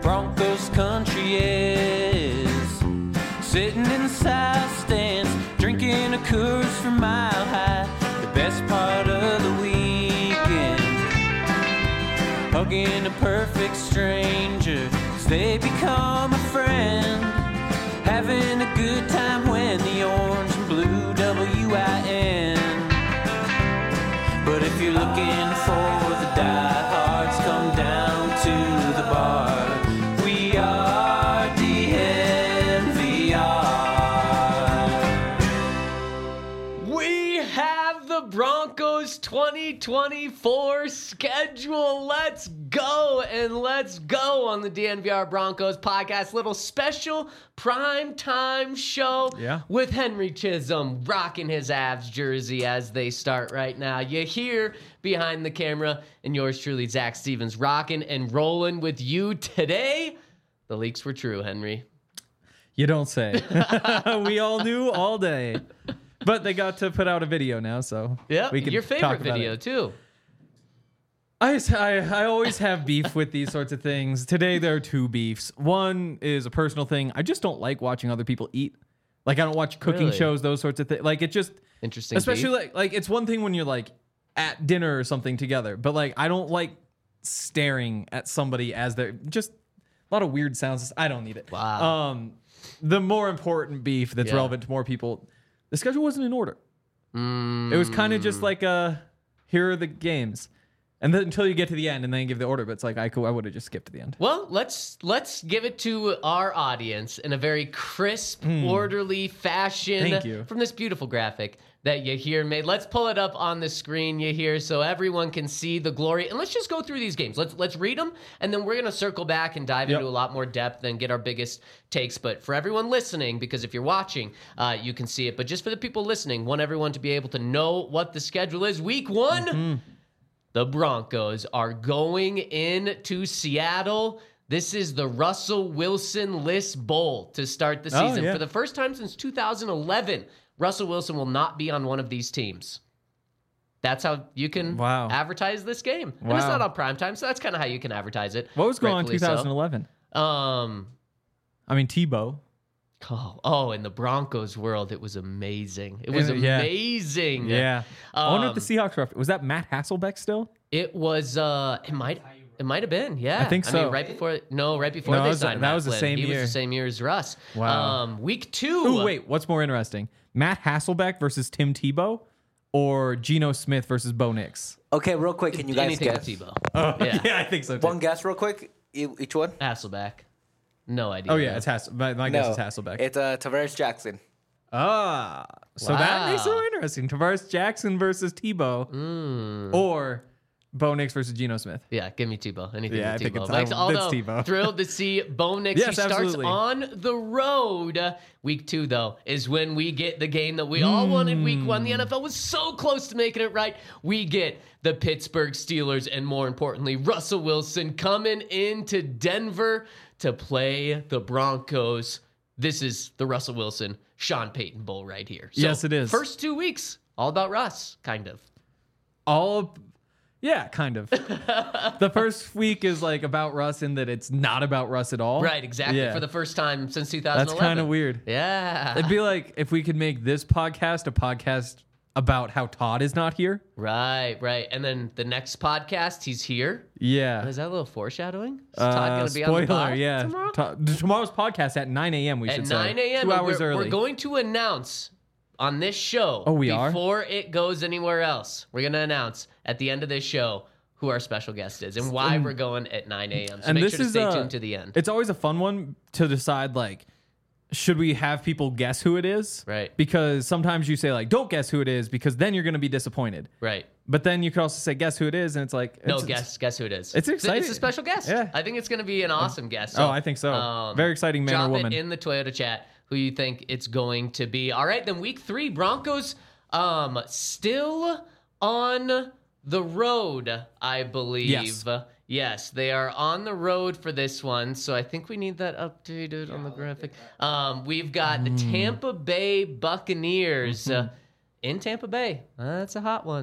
Broncos country is. Sitting in the south stands, drinking a Coors from Mile High. The best part of the weekend, hugging a perfect stranger as they become a friend. Having a good time when the orange and blue WIN. But if you're looking for the diehards, come down to the bar. We are DNVR. We have the Broncos 2024 schedule. Let's go, and let's go on the DNVR Broncos podcast. Little special prime time show with Henry Chisholm rocking his Avs jersey as they start right now. You hear behind the camera, and yours truly, Zach Stevens, rocking and rolling with you today. The leaks were true, Henry. You don't say. We all knew all day. But they got to put out a video now, so we can your talk favorite about video, it. too. I always have beef with these sorts of things. Today, there are two beefs. One is a personal thing. I just don't like watching other people eat. Like, I don't watch cooking shows, those sorts of things. Like, it just... Interesting. Especially, like it's one thing when you're, like, at dinner or something together. But, like, I don't like staring at somebody as they're... Just a lot of weird sounds. I don't need it. Wow. The more important beef that's relevant to more people... The schedule wasn't in order. It was kind of just like, here are the games. And then until you get to the end and then give the order. But it's like, I would have just skipped to the end. Well, let's give it to our audience in a very crisp, orderly fashion. Thank you. From this beautiful graphic that Yahir made. Let's pull it up on the screen, Yahir, so everyone can see the glory. And let's just go through these games. Let's read them, and then we're going to circle back and dive into a lot more depth and get our biggest takes. But for everyone listening, because if you're watching, you can see it. But just for the people listening, want everyone to be able to know what the schedule is. Week 1, the Broncos are going into Seattle. This is the Russell Wilson List Bowl to start the season. For the first time since 2011, Russell Wilson will not be on one of these teams. That's how you can advertise this game. And it's not on primetime, so that's kind of how you can advertise it. What was going on in 2011? I mean, Tebow. Oh, in the Broncos world, it was amazing. It was amazing. Yeah. I wonder if the Seahawks were... Was that Matt Hasselbeck still? It was... It might have been, yeah. I think so. I mean, right before they signed Matt was the Flynn. same year. He was the same year as Russ. Wow. Week 2. Ooh, wait. What's more interesting? Matt Hasselbeck versus Tim Tebow, or Geno Smith versus Bo Nix? Okay, real quick, can you guys Anything guess? with Tebow. Yeah, I think so too. One guess real quick, each one? Hasselbeck. No idea. Oh, yeah, it's Hasselbeck. My guess is Hasselbeck. It's Tavares Jackson. So that makes it more interesting. Tavares Jackson versus Tebow, or Bo Nix versus Geno Smith. Yeah, give me Tebow. Anything Yeah, with I think Tebow. it's Although, thrilled to see Bo Nix. Yes, he starts absolutely. on the road. Week 2, though, is when we get the game that we all wanted week 1. The NFL was so close to making it right. We get the Pittsburgh Steelers, and more importantly, Russell Wilson coming into Denver to play the Broncos. This is the Russell Wilson, Sean Payton Bowl right here. So, Yes, it is. First 2 weeks, all about Russ, kind of. Yeah, kind of. The first week is like about Russ in that it's not about Russ at all. Right, exactly. Yeah. For the first time since 2011. That's kind of weird. Yeah. It'd be like if we could make this podcast a podcast about how Todd is not here. Right. And then the next podcast, he's here. Yeah. Is that a little foreshadowing? Is Todd going to be spoiler, on the pod yeah. tomorrow? Tomorrow's podcast at 9 a.m. we At should 9 say. a.m. 2 hours early. We're going to announce on this show. Oh, we are? Before it goes anywhere else, we're going to announce at the end of this show who our special guest is and why we're going at 9 a.m. So and make this sure to is, stay tuned to the end. It's always a fun one to decide, like, should we have people guess who it is? Right. Because sometimes you say, like, don't guess who it is because then you're going to be disappointed. Right. But then you could also say, guess who it is, and it's like... Guess who it is. It's exciting. It's a special guest. Yeah. I think it's going to be an awesome guest. Oh, I think so. Very exciting man or drop woman. it in the Toyota chat who you think it's going to be. All right, then week 3, Broncos still on the road, I believe. Yes, they are on the road for this one, so I think we need that updated on the graphic. We've got the Tampa Bay Buccaneers in Tampa Bay. That's a hot one.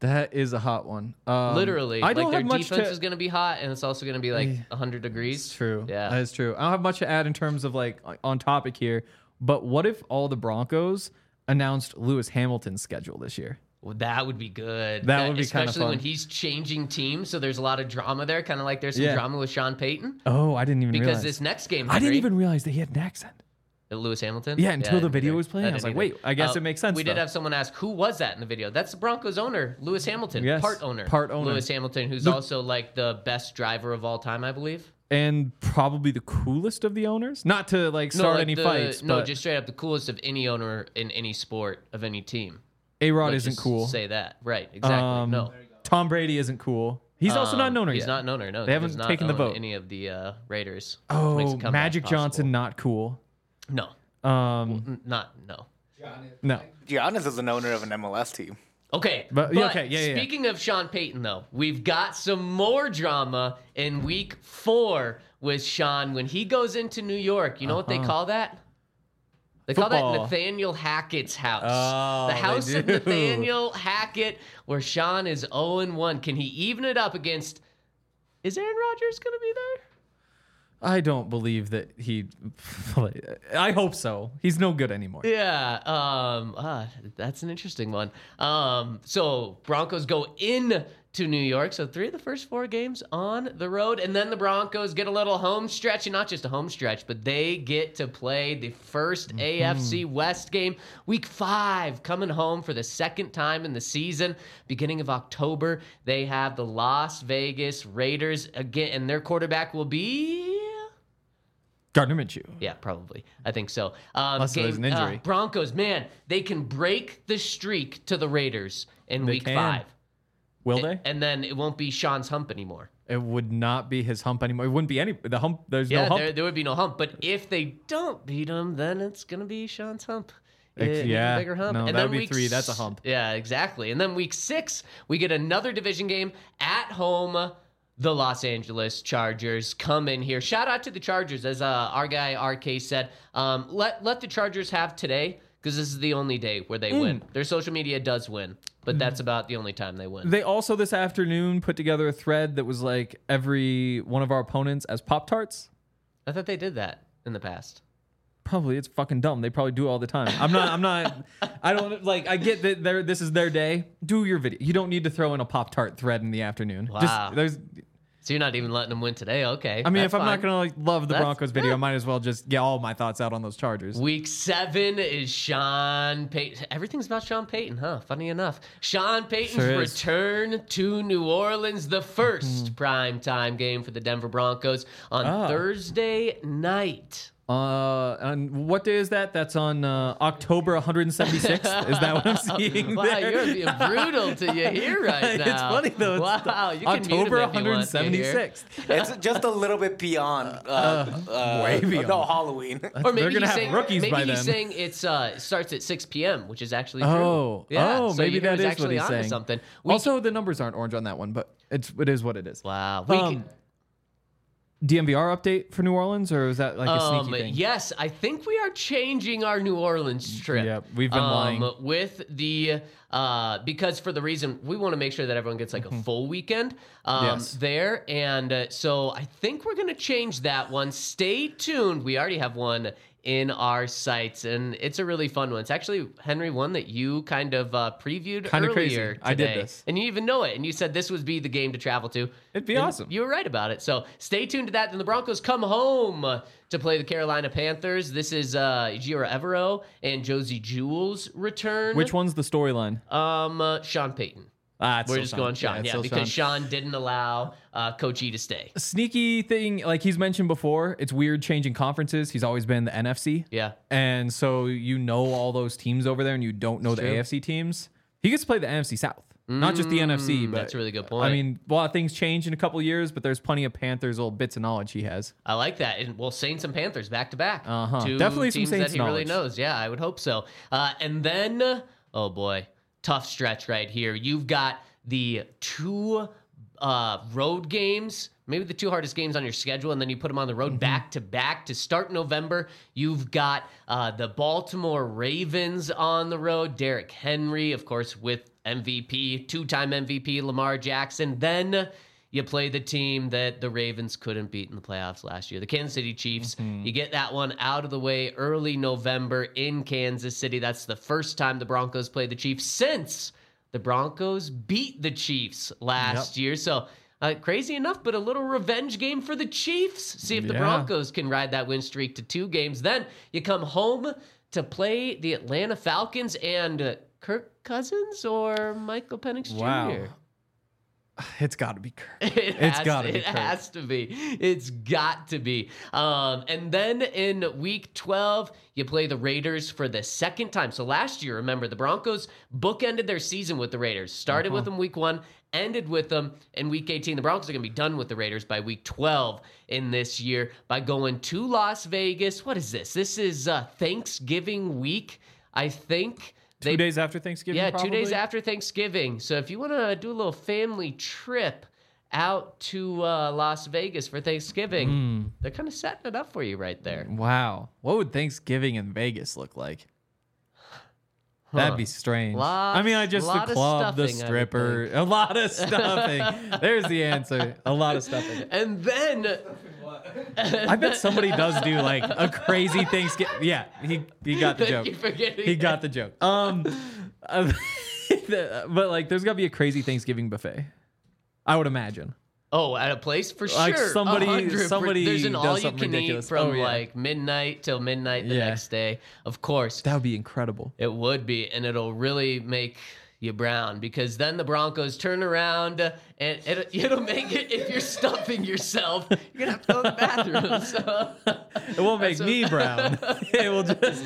That is a hot one. Literally, I don't their have much defense is going to be hot, and it's also going to be like 100 degrees. It's true. Yeah, that is true. I don't have much to add in terms of like on topic here. But what if all the Broncos announced Lewis Hamilton's schedule this year? Well, that would be good. That would be kind of especially fun. when he's changing teams. So there's a lot of drama there, kind of like there's some drama with Sean Payton. Oh, I didn't even because realize. this next game, I didn't even realize that he had an accent. Lewis Hamilton. Yeah, until the video either. was playing, I was like, wait, I guess it makes sense. We did have someone ask, who was that in the video? That's the Broncos owner, Lewis Hamilton. Yes, part owner. Lewis Hamilton, who's also like the best driver of all time, I believe. And probably the coolest of the owners. Not to like start any fights. No, but just straight up the coolest of any owner in any sport of any team. A-Rod Let's isn't just cool. Say that. Right, exactly. No. Tom Brady isn't cool. He's also not an owner yet. He's not an owner, no. They haven't He does not taken the own vote. any of the Raiders. Oh, Makes a comeback Magic possible. Johnson, not cool. No. No. Giannis is an owner of an MLS team. Okay, But- okay, yeah. Speaking of Sean Payton, though, we've got some more drama in Week 4 with Sean when he goes into New York. You know what they call that? They call that Football. Nathaniel Hackett's house. Oh, The house they of do. Nathaniel Hackett, where Sean is 0-1. Can he even it up against? Is Aaron Rodgers going to be there? I don't believe that he. I hope so. He's no good anymore. Yeah, that's an interesting one. So Broncos go in to New York. So 3 of the first 4 games on the road, and then the Broncos get a little home stretch, and not just a home stretch, but they get to play the first AFC West game, Week 5, coming home for the second time in the season, beginning of October. They have the Las Vegas Raiders again, and their quarterback will be. Gardner Minshew. Yeah, probably. I think so. Unless there's an injury. Broncos, man, they can break the streak to the Raiders in Week can. 5. Will they? And then it won't be Sean's hump anymore. It would not be his hump anymore. It wouldn't be the hump. There's no Yeah, hump. there would be no hump. But if they don't beat him, then it's going to be Sean's hump. An yeah. even bigger hump. No, and that then would be week 3. That's a hump. Yeah, exactly. And then Week 6, we get another division game at home. The Los Angeles Chargers come in here. Shout out to the Chargers, as our guy RK said. Let the Chargers have today, because this is the only day where they win. Their social media does win, but that's about the only time they win. They also this afternoon put together a thread that was like every one of our opponents as Pop-Tarts. I thought they did that in the past. Probably. It's fucking dumb. They probably do it all the time. I don't like, I get that this is their day. Do your video. You don't need to throw in a Pop-Tart thread in the afternoon. Wow. There's, So you're not even letting them win today? Okay. I mean, that's if I'm fine. not going to like love the That's- Broncos video, I might as well just get all my thoughts out on those Chargers. Week 7 is Sean Payton. Everything's about Sean Payton, huh? Funny enough. Sean Payton's Sure is. return to New Orleans, the first primetime game for the Denver Broncos on Thursday night. And what day is that? That's on October 176th. Is that what I'm seeing Wow, there? you're being brutal to you here right now. It's funny though. It's Wow, you can October mute him if you want to here. 176th. It's just a little bit beyond. way beyond. No, Halloween. Or maybe They're gonna he's have saying, rookies maybe by he's then. saying it's it starts at 6 p.m., which is actually true. Oh, yeah. So maybe he that was is actually what he's onto saying. something. Also, the numbers aren't orange on that one, but it is what it is. Wow. DMVR update for New Orleans, or is that like a sneaky thing? Yes, I think we are changing our New Orleans trip. Yep, we've been lying. With the because for the reason we want to make sure that everyone gets like a full weekend Yes. there, and so I think we're gonna change that one. Stay tuned. We already have one in our sights, and it's a really fun one. It's actually, Henry, one that you kind of previewed Kinda earlier crazy. today. I did this. And you even know it, and you said this would be the game to travel to. It'd be And awesome. You were right about it. So stay tuned to that. Then the Broncos come home to play the Carolina Panthers. This is Ejiro Evero and Josie Jewell's return. Which one's the storyline? Sean Payton. It's We're still just going Sean. it's Yeah, still because Sean didn't allow Coach E to stay. Sneaky thing, like he's mentioned before, it's weird changing conferences. He's always been the NFC. Yeah. And so you know all those teams over there and you don't know the true. AFC teams. He gets to play the NFC South. Not just the NFC, but that's a really good point. I mean, a lot of things change in a couple years, but there's plenty of Panthers little bits of knowledge he has. I like that. And well, Saints and Panthers back to back. Two Definitely some teams Saints that he really knowledge. knows. Yeah, I would hope so. And then, oh boy, tough stretch right here. You've got the 2 road games, maybe the 2 hardest games on your schedule, and then you put them on the road back to back to start November. You've got the Baltimore Ravens on the road. Derrick Henry, of course, with MVP, 2-time MVP Lamar Jackson. Then you play the team that the Ravens couldn't beat in the playoffs last year, the Kansas City Chiefs. You get that one out of the way early November in Kansas City. That's the first time the Broncos played the Chiefs since the Broncos beat the Chiefs last year. So crazy enough, but a little revenge game for the Chiefs. See if the Broncos can ride that win streak to 2 games. Then you come home to play the Atlanta Falcons and Kirk Cousins or Michael Penix Jr. Wow. It's got to be Kirk. It has to be. It's got to be. And then in week 12, you play the Raiders for the second time. So last year, remember, the Broncos bookended their season with the Raiders. Started with them week 1, ended with them in week 18. The Broncos are going to be done with the Raiders by week 12 in this year by going to Las Vegas. What is this? This is Thanksgiving week, I think. 2 days after Thanksgiving, Yeah, probably? 2 days after Thanksgiving. So if you want to do a little family trip out to Las Vegas for Thanksgiving, they're kind of setting it up for you right there. Wow. What would Thanksgiving in Vegas look like? That'd be strange. I just the club, the stripper, a lot of stuffing. There's the answer. A lot of stuffing. And then I bet somebody does do like a crazy Thanksgiving. Yeah, he got the joke. He got the joke. But like, there's got to be a crazy Thanksgiving buffet, I would imagine. Oh, at a place for like sure. Somebody there's an all you can ridiculous. eat from like midnight till midnight the next day. Of course, that would be incredible. It would be, and it'll really make you brown, because then the Broncos turn around and it'll make it, if you're stuffing yourself, you're gonna have to go to the bathroom. So it won't make me brown. It will just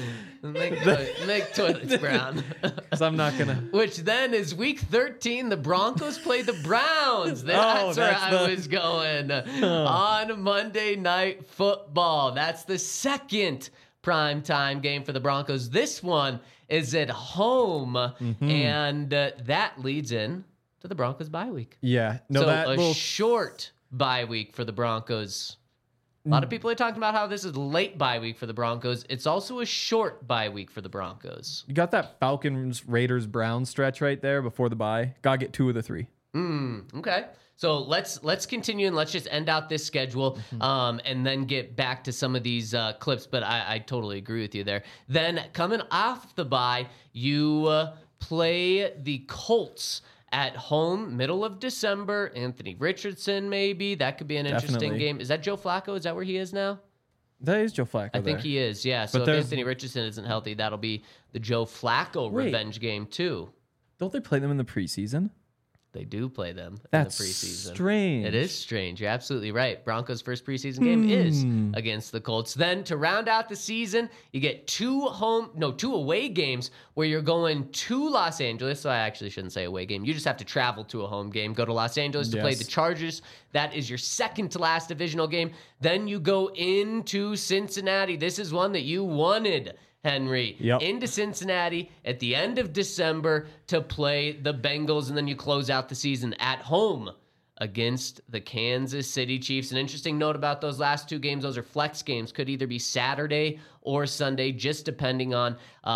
make toilets brown. Because I'm not gonna. Which then is week 13. The Broncos play the Browns. That's where I was going on Monday Night Football. That's the second primetime game for the Broncos. This one is at home, and that leads in to the Broncos bye week. Yeah, no, so that short bye week for the Broncos. A lot of people are talking about how this is late bye week for the Broncos. It's also a short bye week for the Broncos. You got that Falcons, Raiders, Browns stretch right there before the bye. Gotta get 2 of the 3. Okay. So let's continue and let's just end out this schedule and then get back to some of these clips. But I totally agree with you there. Then coming off the bye, you play the Colts at home, middle of December. Anthony Richardson, maybe. That could be an interesting game. Is that Joe Flacco? Is that where he is now? That is Joe Flacco. I think he is, yeah. So if Anthony Richardson isn't healthy, that'll be the Joe Flacco revenge game too. Don't they play them in the preseason? They do play them That's in the preseason. Strange. It is strange. You're absolutely right. Broncos' first preseason game is against the Colts. Then to round out the season, you get 2 away games where you're going to Los Angeles. So I actually shouldn't say away game. You just have to travel to a home game. Go to Los Angeles to play the Chargers. That is your second to last divisional game. Then you go into Cincinnati. This is one that you wanted, Henry, into Cincinnati at the end of December to play the Bengals, and then you close out the season at home against the Kansas City Chiefs. An interesting note about those last 2 games, those are flex games. Could either be Saturday or Sunday, just depending on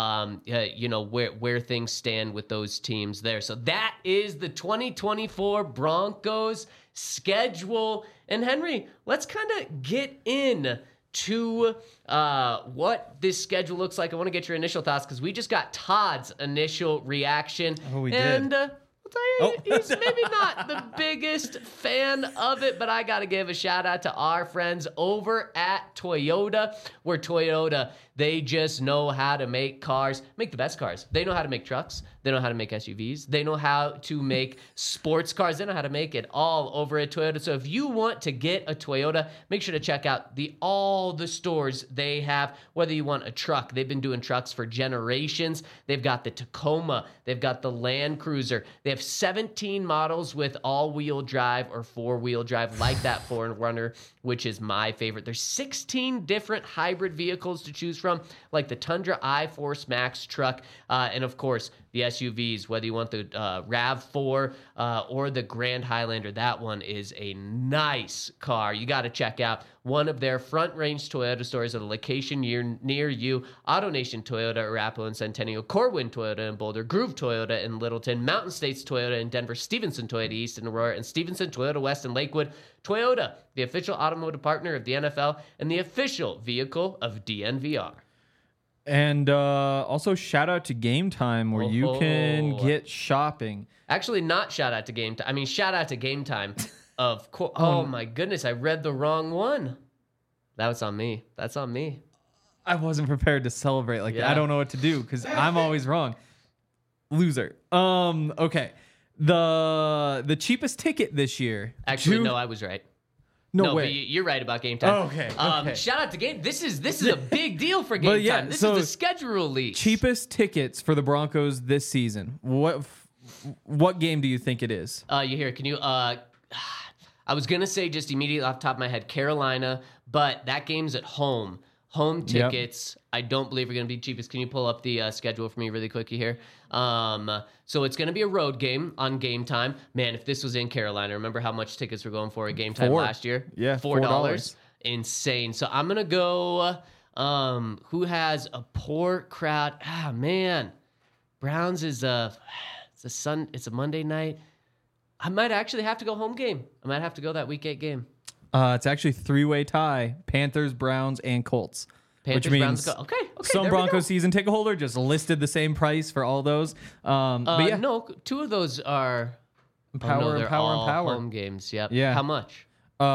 where things stand with those teams there. So that is the 2024 Broncos schedule. And Henry, let's kind of get in to what this schedule looks like. I want to get your initial thoughts because we just got Todd's initial reaction. Oh, we did. I'll tell you, he's maybe not the biggest fan of it, but I got to give a shout out to our friends over at Toyota, where Toyota, they just know how to make cars, make the best cars. They know how to make trucks. They know how to make SUVs. They know how to make sports cars. They know how to make it all over at Toyota. So if you want to get a Toyota, make sure to check out all the stores they have, whether you want a truck. They've been doing trucks for generations. They've got the Tacoma. They've got the Land Cruiser. They have 17 models with all-wheel drive or four-wheel drive, like that 4Runner, which is my favorite. There's 16 different hybrid vehicles to choose from, like the Tundra iForce Max truck, and of course, the SUVs, whether you want the RAV4 or the Grand Highlander, that one is a nice car. You got to check out one of their Front Range Toyota stores at a location near you. AutoNation Toyota, Arapahoe and Centennial, Corwin Toyota in Boulder, Groove Toyota in Littleton, Mountain States Toyota in Denver, Stevenson Toyota East in Aurora, and Stevenson Toyota West in Lakewood. Toyota, the official automotive partner of the NFL and the official vehicle of DNVR. And also shout out to Game Time, where you can get shopping. Actually, not shout out to Game Time. I mean, shout out to Game Time. Of course. Oh my goodness, I read the wrong one. That was on me. That's on me. I wasn't prepared to celebrate like that. I don't know what to do because I'm always wrong. Loser. Okay. The cheapest ticket this year. Actually, no, I was right. No way. You're right about Game Time. Okay. Shout out to Game. This is a big deal for Game Time. This is the schedule release. Cheapest tickets for the Broncos this season. What game do you think it is? You hear? Can you? I was gonna say just immediately off the top of my head, Carolina, but that game's at home. Home tickets, I don't believe are going to be cheapest. Can you pull up the schedule for me really quickly here? So it's going to be a road game on Game Time. Man, if this was in Carolina, remember how much tickets were going for at Game Time last year? Yeah, $4. Insane. So I'm going to go, who has a poor crowd? Ah, man. Browns is it's a Monday night. I might actually have to go home game. I might have to go that Week 8 game. It's actually 3-way tie: Panthers, Browns, and Colts. Panthers, which means Browns, okay. Some Broncos season ticket holder just listed the same price for all those. But yeah, no, two of those are Power and Power. Home games. Yep. Yeah. How much?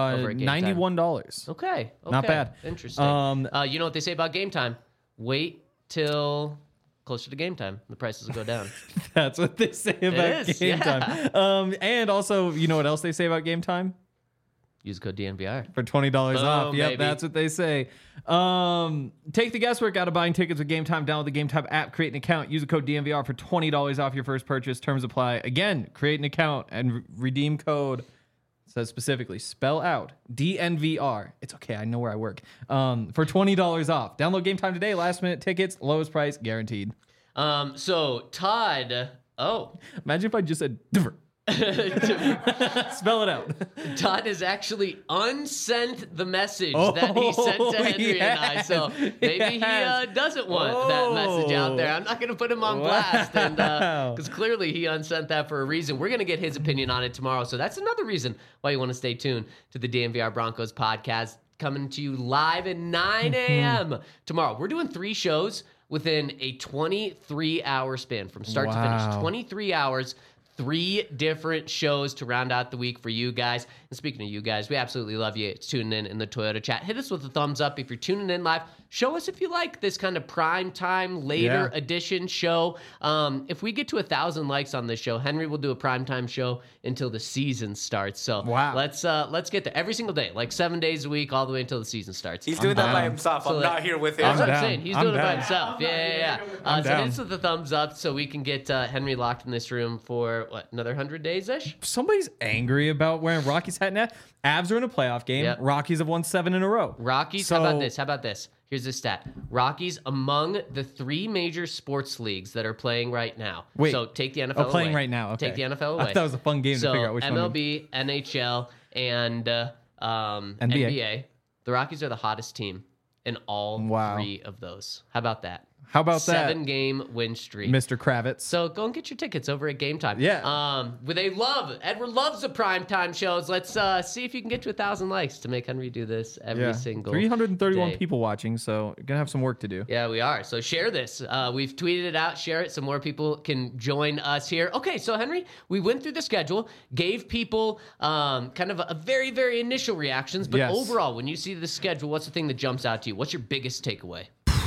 $91. Okay. Not bad. Interesting. You know what they say about Game Time? Wait till closer to game time. The prices will go down. That's what they say about Game Time. And also, you know what else they say about Game Time? Use code DNVR. For $20 off. Yep, baby. That's what they say. Take the guesswork out of buying tickets with Game Time. Download the Game Time app, create an account, use the code DNVR for $20 off your first purchase. Terms apply. Again, create an account and redeem code. It says specifically, spell out DNVR. It's okay, I know where I work. For $20 off. Download Game Time today. Last minute tickets, lowest price guaranteed. So Todd. Oh, imagine if I just said different. Spell it out. Todd has actually unsent the message that he sent to Henry and I. So maybe he doesn't want that message out there. I'm not going to put him on blast, and because clearly he unsent that for a reason. We're going to get his opinion on it tomorrow. So that's another reason why you want to stay tuned to the DNVR Broncos podcast, coming to you live at 9 a.m. tomorrow. We're doing 3 shows within a 23-hour span from start to finish. 23 hours. 3 different shows to round out the week for you guys. And speaking of you guys, we absolutely love you tuning in the Toyota chat. Hit us with a thumbs up if you're tuning in live. Show us if you like this kind of prime time, later edition show. If we get to 1,000 likes on this show, Henry will do a prime time show until the season starts. So let's get there every single day, like 7 days a week, all the way until the season starts. He's doing that by himself. I'm not here with him. That's what I'm saying. He's doing it by himself. Yeah. So hit us with the thumbs up so we can get Henry locked in this room for another 100 days-ish? Somebody's angry about wearing Rockies hat now. Avs are in a playoff game. Yep. Rockies have won 7 in a row. Rockies, how about this? Here's the stat. Rockies among the 3 major sports leagues that are playing right now. Wait. So take the NFL away. Playing right now. Okay. Take the NFL away. I thought that was a fun game to figure out which MLB, one. NHL, and NBA. The Rockies are the hottest team in all 3 of those. How about that? How about that? 7-game win streak. Mr. Kravitz. So go and get your tickets over at Game Time. Yeah. Edward loves the primetime shows. Let's see if you can get to 1,000 likes to make Henry do this every single 331 day. People watching, so you're going to have some work to do. Yeah, we are. So share this. We've tweeted it out. Share it so more people can join us here. Okay, so Henry, we went through the schedule, gave people kind of a very, very initial reactions, but overall, when you see the schedule, what's the thing that jumps out to you? What's your biggest takeaway?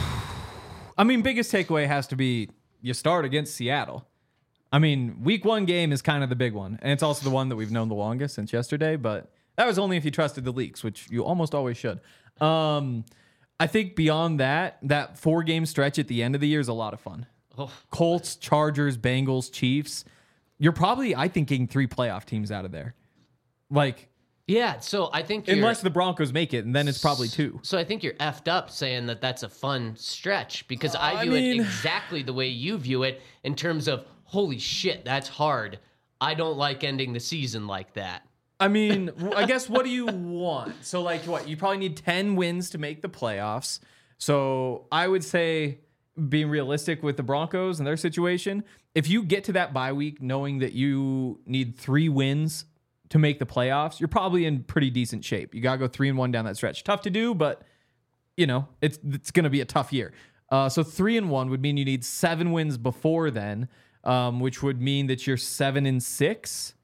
I mean, biggest takeaway has to be you start against Seattle. I mean, week 1 game is kind of the big one. And it's also the one that we've known the longest since yesterday. But that was only if you trusted the leaks, which you almost always should. I think beyond that 4-game stretch at the end of the year is a lot of fun. Colts, Chargers, Bengals, Chiefs. You're probably, I think, getting 3 playoff teams out of there. Like, Yeah, so I think unless the Broncos make it, and then it's probably 2. So I think you're effed up saying that that's a fun stretch because I view it exactly the way you view it in terms of, holy shit, that's hard. I don't like ending the season like that. I mean, I guess what do you want? So, like, what? You probably need 10 wins to make the playoffs. So I would say, being realistic with the Broncos and their situation, if you get to that bye week knowing that you need 3 wins to make the playoffs, you're probably in pretty decent shape. You got to go 3-1 down that stretch. Tough to do, but, you know, it's going to be a tough year. So 3-1 would mean you need 7 wins before then, which would mean that you're 7-6.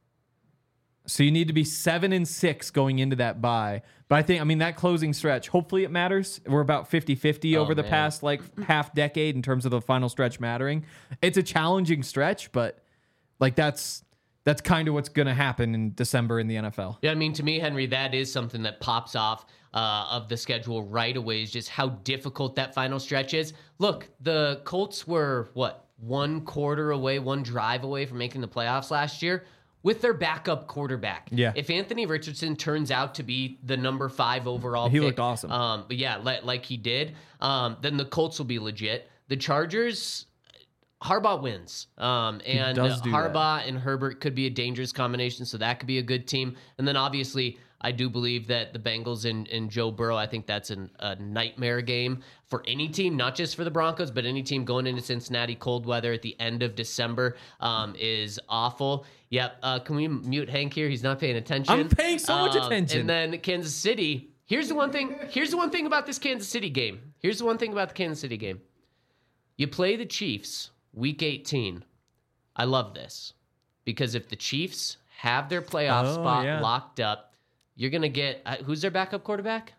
So you need to be 7-6 going into that bye. But I mean, that closing stretch, hopefully it matters. We're about 50-50 over the past like half decade in terms of the final stretch mattering. It's a challenging stretch, but like that's kind of what's going to happen in December in the NFL. Yeah, I mean, to me, Henry, that is something that pops off of the schedule right away, is just how difficult that final stretch is. Look, the Colts were, 1 quarter away, 1 drive away from making the playoffs last year with their backup quarterback. Yeah. If Anthony Richardson turns out to be the number 5 overall he pick, looked awesome. But yeah, like he did, then the Colts will be legit. The Chargers, Harbaugh wins. And Harbaugh and Herbert could be a dangerous combination, so that could be a good team. And then obviously, I do believe that the Bengals and Joe Burrow, I think that's a nightmare game for any team, not just for the Broncos, but any team going into Cincinnati, cold weather at the end of December is awful. Yep. Can we mute Hank here? He's not paying attention. I'm paying so much attention. And then Kansas City. Here's the one thing about this Kansas City game. Here's the one thing about the Kansas City game. You play the Chiefs Week 18. I love this because if the Chiefs have their playoff spot locked up, you're going to get who's their backup quarterback?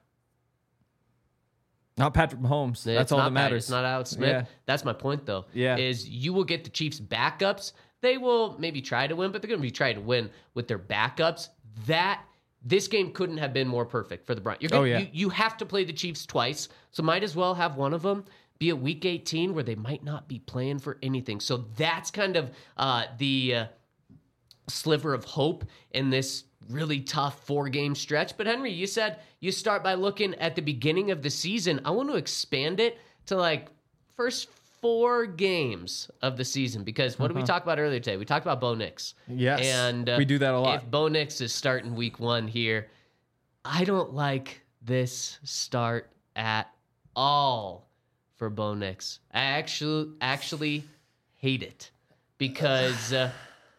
Not Patrick Mahomes. That's all that matters. It's not Alex Smith. Yeah. That's my point, though. Yeah. Is you will get the Chiefs backups. They will maybe try to win, but they're going to be trying to win with their backups. This game couldn't have been more perfect for the Browns. You have to play the Chiefs twice, so might as well have one of them be a Week 18 where they might not be playing for anything. So that's kind of the sliver of hope in this really tough 4-game stretch. But Henry, you said you start by looking at the beginning of the season. I want to expand it to like first 4 games of the season, because what did we talk about earlier today? We talked about Bo Nix. Yes, and we do that a lot. If Bo Nix is starting Week 1 here, I don't like this start at all for Bo Nix. I actually hate it because the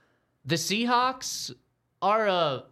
Seahawks are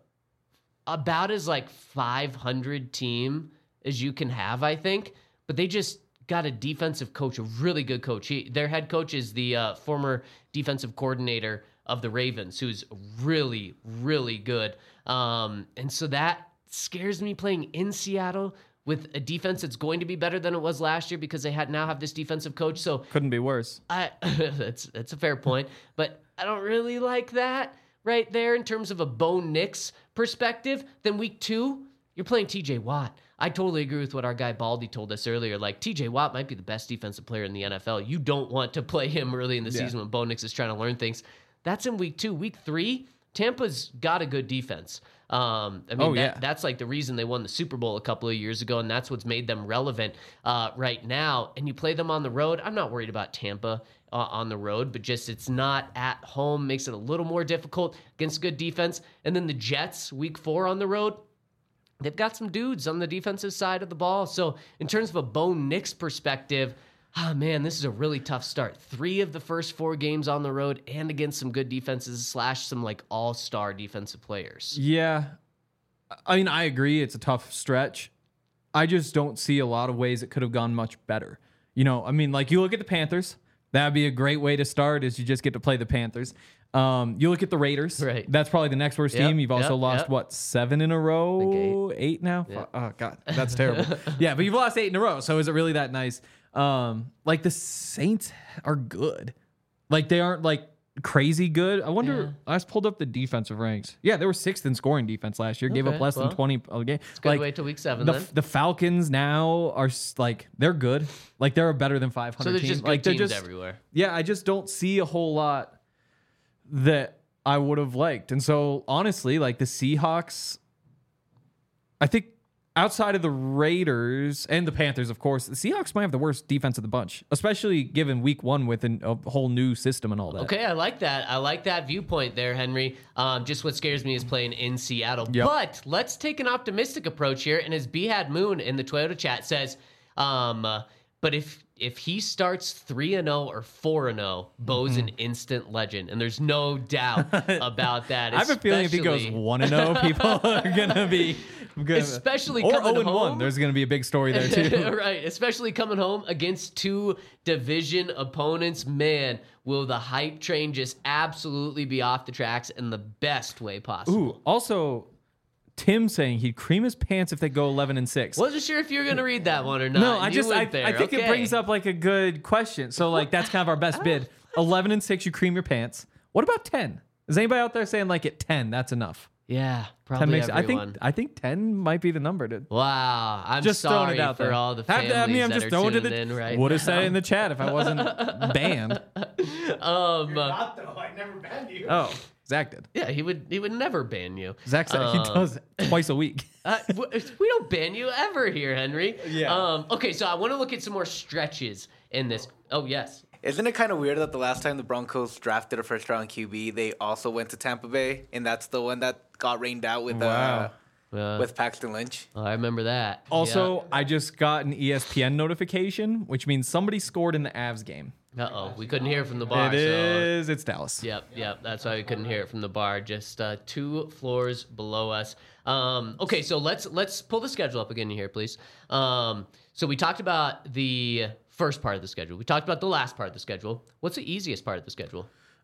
about as like 500 team as you can have, I think, but they just got a defensive coach, a really good coach. Their head coach is the former defensive coordinator of the Ravens, who's really, really good. And so that scares me playing in Seattle with a defense that's going to be better than it was last year because they now have this defensive coach. So couldn't be worse. That's a fair point, but I don't really like that right there in terms of a Bo Nix perspective. Then Week 2, you're playing TJ Watt. I totally agree with what our guy Baldy told us earlier. Like, TJ Watt might be the best defensive player in the NFL. You don't want to play him early in the season when Bo Nix is trying to learn things. That's in Week 2. Week 3, Tampa's got a good defense. That's like the reason they won the Super Bowl a couple of years ago, and that's what's made them relevant right now. And you play them on the road. I'm not worried about Tampa on the road, but just it's not at home. Makes it a little more difficult against good defense. And then the Jets, Week 4 on the road, they've got some dudes on the defensive side of the ball. So in terms of a Bo Nix perspective, this is a really tough start. 3 of the first 4 games on the road and against some good defenses / some like all-star defensive players. Yeah. I mean, I agree. It's a tough stretch. I just don't see a lot of ways it could have gone much better. You know, I mean, like you look at the Panthers. That'd be a great way to start is you just get to play the Panthers. You look at the Raiders. Right. That's probably the next worst team. You've also lost, 7 in a row? 8 now? Yep. Oh, God. That's terrible. Yeah, but you've lost 8 in a row. So is it really that nice? Like the Saints are good. Like they aren't like crazy good. I wonder, I just pulled up the defensive ranks. Yeah, they were 6th in scoring defense last year. Gave up less than 20 a game. It's good to wait till Week 7 then. The Falcons now are like, they're good. Like they're a better than 500 So there's team. just good teams everywhere. Yeah, I just don't see a whole lot that I would have liked. And so honestly, like the Seahawks, I think outside of the Raiders and the Panthers, of course, the Seahawks might have the worst defense of the bunch, especially given week 1 with a whole new system and all that. Okay, I like that. I like that viewpoint there, Henry. Just what scares me is playing in Seattle. Yep. But let's take an optimistic approach here. And as Behad Moon in the Toyota chat says, but if he starts 3-0 or 4-0, Bo's an instant legend, and there's no doubt about that. I have a feeling if he goes 1-0, people are gonna be good. Especially or coming 0-1, home. there's gonna be a big story there too. Right, especially coming home against 2 division opponents. Man, will the hype train just absolutely be off the tracks in the best way possible. Ooh, also, Tim saying he'd cream his pants if they go 11-6. Wasn't sure if you were going to read that one or not. No, I think Okay. it brings up like a good question. So like that's kind of our best bid. 11-6, you cream your pants. What about 10? Is anybody out there saying like at 10 that's enough? Yeah, 10 probably makes, everyone. I think 10 might be the number to. Wow, I'm Just throwing sorry it out for there. all the families I'm that just are throwing tuning it in right Would have said now. it in the chat if I wasn't banned. Not though. I never banned you. Oh, Zach did. Yeah, he would never ban you. Zach said he does twice a week. We don't ban you ever here, Henry. Yeah. Okay, so I want to look at some more stretches in this. Oh, yes. Isn't it kind of weird that the last time the Broncos drafted a first-round QB, they also went to Tampa Bay, and that's the one that got rained out with with Paxton Lynch? I remember that. Also, I just got an ESPN notification, which means somebody scored in the Avs game. Uh-oh, we couldn't hear from the bar. It's Dallas. Yep. That's why we couldn't hear it from the bar. Just 2 floors below us. Okay, so let's pull the schedule up again here, please. So we talked about the first part of the schedule. We talked about the last part of the schedule. What's the easiest part of the schedule?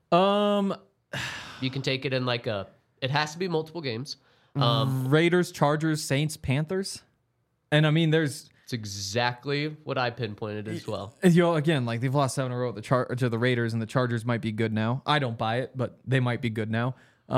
You can take it in like it has to be multiple games. Raiders, Chargers, Saints, Panthers. And I mean, it's exactly what I pinpointed as well. Again, like they've lost 7 in a row to the Raiders, and the Chargers might be good now. I don't buy it, but they might be good now.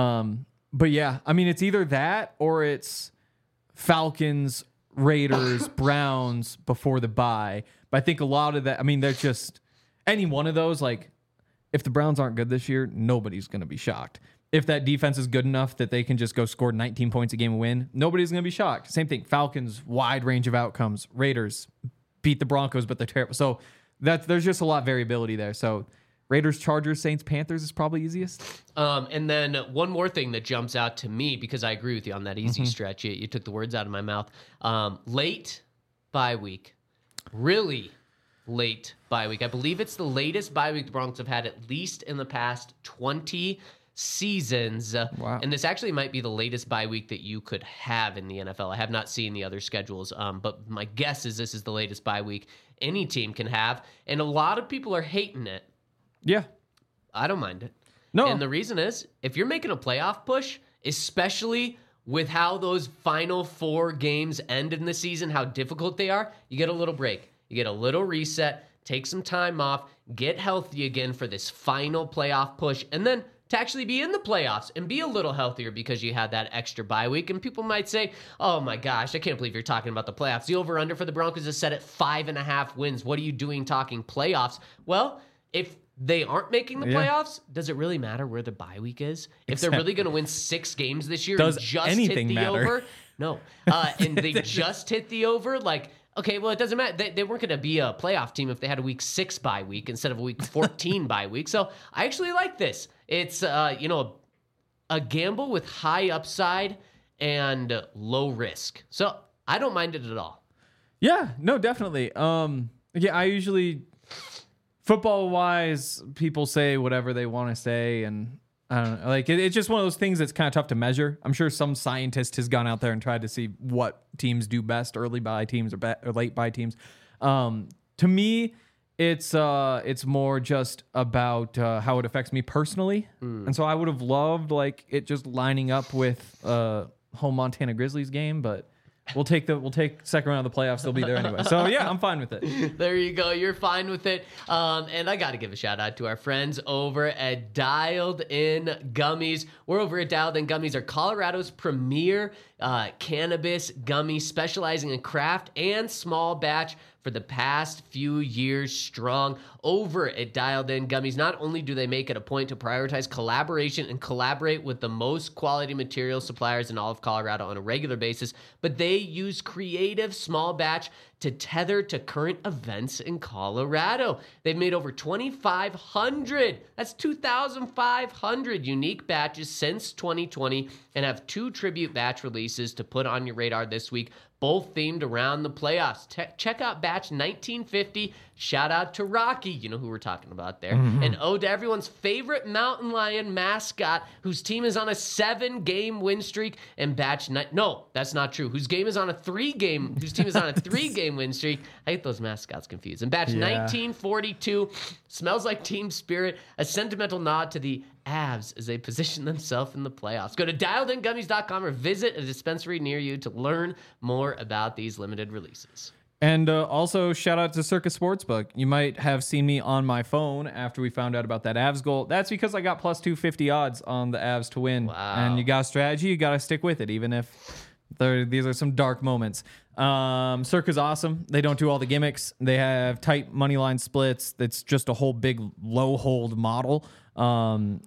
But yeah, I mean, it's either that or it's Falcons, Raiders, Browns before the bye. But I think a lot of that, I mean, they're just any one of those, like if the Browns aren't good this year, nobody's going to be shocked. If that defense is good enough that they can just go score 19 points a game and win, nobody's going to be shocked. Same thing. Falcons, wide range of outcomes. Raiders beat the Broncos, but they're terrible. So there's just a lot of variability there. So Raiders, Chargers, Saints, Panthers is probably easiest. And then one more thing that jumps out to me, because I agree with you on that easy stretch. You took the words out of my mouth. Late bye week. Really late bye week. I believe it's the latest bye week the Broncos have had at least in the past 20 seasons. Wow. And this actually might be the latest bye week that you could have in the NFL. I have not seen the other schedules, but my guess is this is the latest bye week any team can have. And a lot of people are hating it. Yeah. I don't mind it. No. And the reason is, if you're making a playoff push, especially with how those final 4 games end in the season, how difficult they are, you get a little break. You get a little reset, take some time off, get healthy again for this final playoff push, and then to actually be in the playoffs and be a little healthier because you had that extra bye week. And people might say, oh my gosh, I can't believe you're talking about the playoffs. The over-under for the Broncos is set at 5.5 wins. What are you doing talking playoffs? Well, if they aren't making the playoffs, does it really matter where the bye week is? If they're really going to win 6 games this year and just hit the over? No. And they just hit the over? Like, okay, well, it doesn't matter. They weren't going to be a playoff team if they had a week 6 bye week instead of a week 14 bye week. So I actually like this. It's, a gamble with high upside and low risk. So I don't mind it at all. Yeah, no, definitely. I usually... Football-wise, people say whatever they want to say, and I don't know. Like it's just one of those things that's kind of tough to measure. I'm sure some scientist has gone out there and tried to see what teams do best, early bye teams or late bye teams. To me, it's more just about how it affects me personally, and so I would have loved like it just lining up with home Montana Grizzlies game, but. We'll take second round of the playoffs. They'll be there anyway. So yeah, I'm fine with it. There you go. You're fine with it. And I got to give a shout out to our friends over at Dialed In Gummies. We're over at Dialed In Gummies, are Colorado's premier cannabis gummy, specializing in craft and small batch for the past few years strong over at Dialed In Gummies. Not only do they make it a point to prioritize collaboration and collaborate with the most quality material suppliers in all of Colorado on a regular basis, but they use creative small batch to tether to current events in Colorado. They've made over 2,500, that's 2,500 unique batches since 2020 and have 2 tribute batch releases to put on your radar this week, both themed around the playoffs. Check out batch 1950. Shout out to Rocky, you know who we're talking about there. And ode to everyone's favorite mountain lion mascot, whose team is on a 7-game win streak. And batch no, that's not true. Whose team is on a 3-game win streak. I get those mascots confused. And batch 1942 smells like team spirit, a sentimental nod to the Avs as they position themselves in the playoffs. Go to dialedingummies.com or visit a dispensary near you to learn more about these limited releases. And also, shout out to Circus Sportsbook. You might have seen me on my phone after we found out about that Avs goal. That's because I got plus 250 odds on the Avs to win. Wow. And you got a strategy, you got to stick with it, even if these are some dark moments. Circa's awesome. They don't do all the gimmicks. They have tight money line splits. It's just a whole big low hold model. That's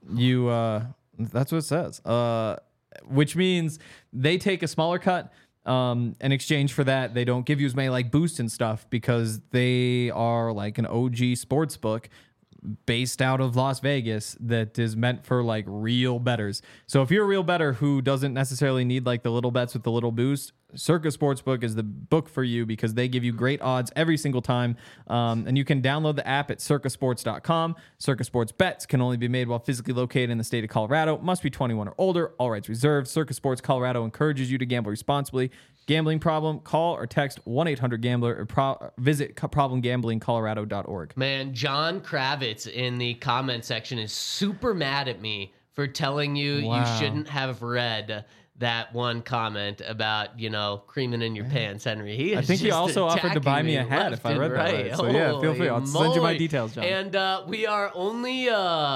what it says. Which means they take a smaller cut. In exchange for that, they don't give you as many like boosts and stuff because they are like an OG sports book based out of Las Vegas that is meant for like real bettors. So if you're a real bettor who doesn't necessarily need like the little bets with the little boost, Circus Sportsbook is the book for you because they give you great odds every single time. And you can download the app at circusports.com. Circus Sports bets can only be made while physically located in the state of Colorado. Must be 21 or older. All rights reserved. Circus Sports Colorado encourages you to gamble responsibly. Gambling problem? Call or text 1-800-GAMBLER or visit problemgamblingcolorado.org. Man, John Kravitz in the comment section is super mad at me for telling you you shouldn't have read that one comment about, creaming in your pants, Henry. I think he also offered to buy me a hat if I read that right. So yeah, feel free. I'll send you my details, John. And we are only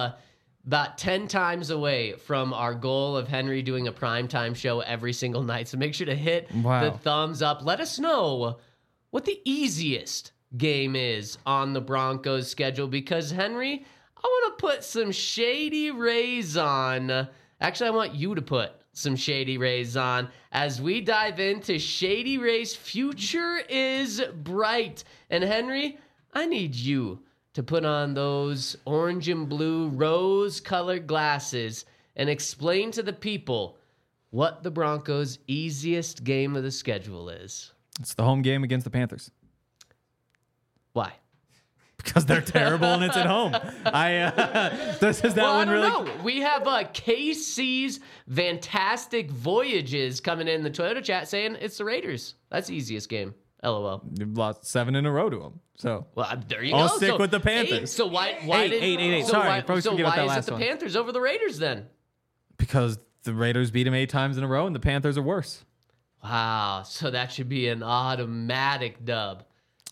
about 10 times away from our goal of Henry doing a primetime show every single night. So make sure to hit the thumbs up. Let us know what the easiest game is on the Broncos schedule because, Henry, I want to put some Shady Rays on. Actually, I want you to put some Shady Rays on as we dive into Shady Rays Future is Bright. And Henry, I need you to put on those orange and blue rose-colored glasses and explain to the people what the Broncos' easiest game of the schedule is. It's the home game against the Panthers. Why? Because they're terrible and it's at home. I don't know. We have KC's Fantastic Voyages coming in the Toyota chat saying it's the Raiders. That's the easiest game. LOL. You've lost 7 in a row to them. So there you go. I'll stick with the Panthers. 8. So why eight. So Sorry, why is it the Panthers over the Raiders then? Because the Raiders beat them 8 times in a row and the Panthers are worse. Wow. So that should be an automatic dub.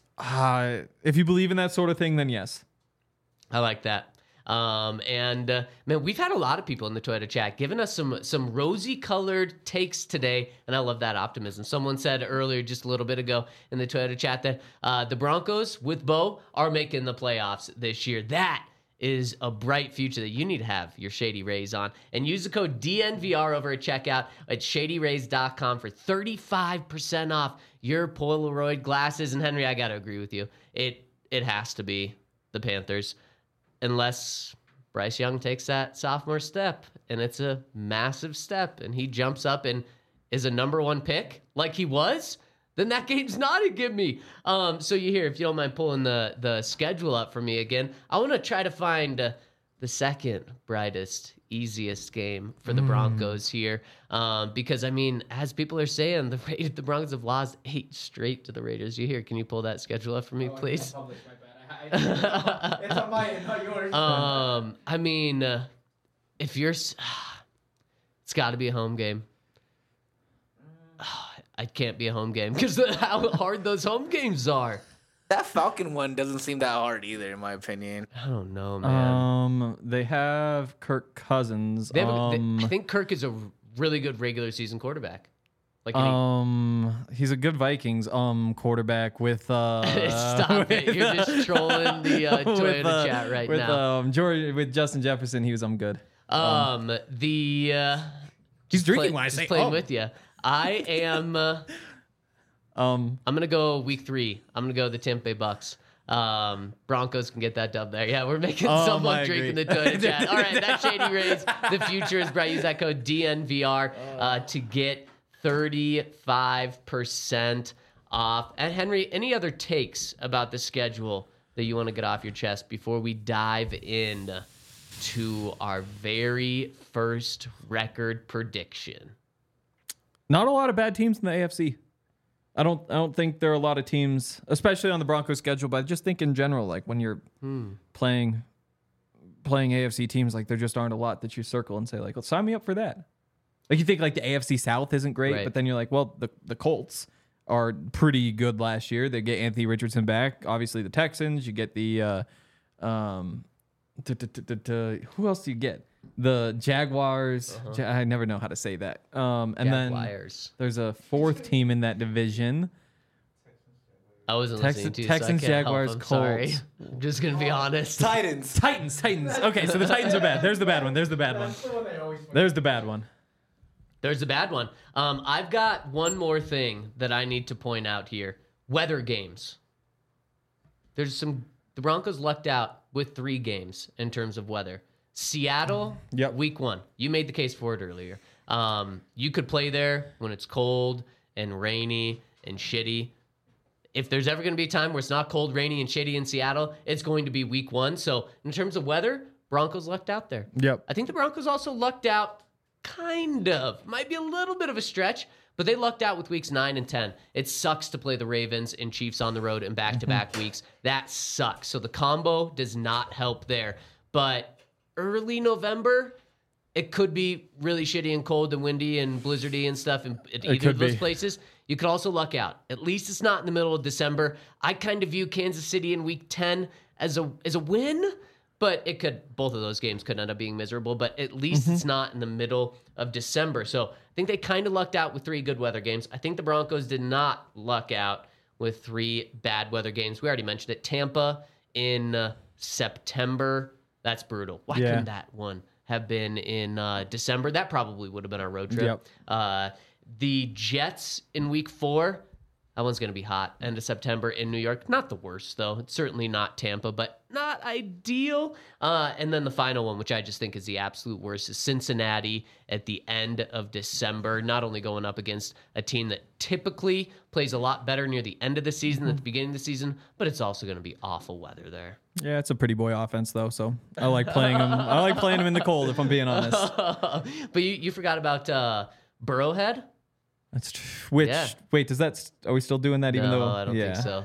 If you believe in that sort of thing, then yes. I like that. Man, we've had a lot of people in the Toyota chat giving us some rosy-colored takes today, and I love that optimism. Someone said earlier, just a little bit ago in the Toyota chat, that the Broncos with Bo are making the playoffs this year. That is a bright future that you need to have your Shady Rays on. And use the code DNVR over at checkout at shadyrays.com for 35% off your Polaroid glasses. And Henry, I got to agree with you. It has to be the Panthers unless Bryce Young takes that sophomore step, and it's a massive step, and he jumps up and is a number 1 pick like he was, then that game's not a gimme. So you hear, if you don't mind pulling the schedule up for me again, I want to try to find the second brightest, easiest game for the Broncos here. Because, as people are saying, the Broncos have lost 8 straight to the Raiders. You hear, can you pull that schedule up for me, please? It's on my end, not yours. If you're... it's got to be a home game. It can't be a home game because how hard those home games are. That Falcon one doesn't seem that hard either, in my opinion. I don't know, man. They have Kirk Cousins. I think Kirk is a really good regular season quarterback. Like he's a good Vikings quarterback with Stop it. You're just trolling the Toyota chat right now. With Justin Jefferson, he was good. He's drinking when I say playing with you. I am I'm gonna go week 3. I'm gonna go the Tampa Bay Bucks. Broncos can get that dub there. Yeah, we're making someone drink in the Toyota chat. All right, that's Shady Rays. The future is bright. Use that code DNVR to get 35% off. And Henry, any other takes about the schedule that you want to get off your chest before we dive in to our very first record prediction? Not a lot of bad teams in the AFC. I don't think there are a lot of teams, especially on the Broncos schedule, but I just think in general, like when you're playing AFC teams, like there just aren't a lot that you circle and say like, well, sign me up for that. Like you think like the AFC South isn't great, right. But then you're like, well, the Colts are pretty good last year. They get Anthony Richardson back. Obviously the Texans, you get the who else do you get? The Jaguars. I never know how to say that. And Jaguars. Then there's a fourth team in that division. I wasn't listening to you, Texans, so I can't Jaguars, help. I'm Colts. sorry. I'm just gonna be honest. Titans. Okay, so the Titans are bad. There's the bad one. There's the bad one. There's the bad one. There's the bad one. I've got one more thing that I need to point out here. Weather games. The Broncos lucked out with 3 games in terms of weather. Seattle, week 1. You made the case for it earlier. You could play there when it's cold and rainy and shitty. If there's ever going to be a time where it's not cold, rainy, and shitty in Seattle, it's going to be week 1. So in terms of weather, Broncos lucked out there. Yep. I think the Broncos also lucked out, kind of. Might be a little bit of a stretch, but they lucked out with weeks 9 and 10. It sucks to play the Ravens and Chiefs on the road in back-to-back weeks. That sucks. So the combo does not help there. But early November, it could be really shitty and cold and windy and blizzardy and stuff in either of those places. You could also luck out. At least it's not in the middle of December. I kind of view Kansas City in week 10 as a win, but both of those games could end up being miserable, but at least it's not in the middle of December. So I think they kind of lucked out with 3 good weather games. I think the Broncos did not luck out with 3 bad weather games. We already mentioned it. Tampa in September. That's brutal. Why couldn't that one have been in December? That probably would have been our road trip. Yep. The Jets in week 4. That one's going to be hot. End of September in New York. Not the worst, though. It's certainly not Tampa, but not ideal. And then the final one, which I just think is the absolute worst, is Cincinnati at the end of December. Not only going up against a team that typically plays a lot better near the end of the season than at the beginning of the season, but it's also going to be awful weather there. Yeah, it's a pretty boy offense, though, so I like playing them. I like playing them in the cold, if I'm being honest. But you forgot about Burrowhead? That's wait, are we still doing that? Even though I don't think so.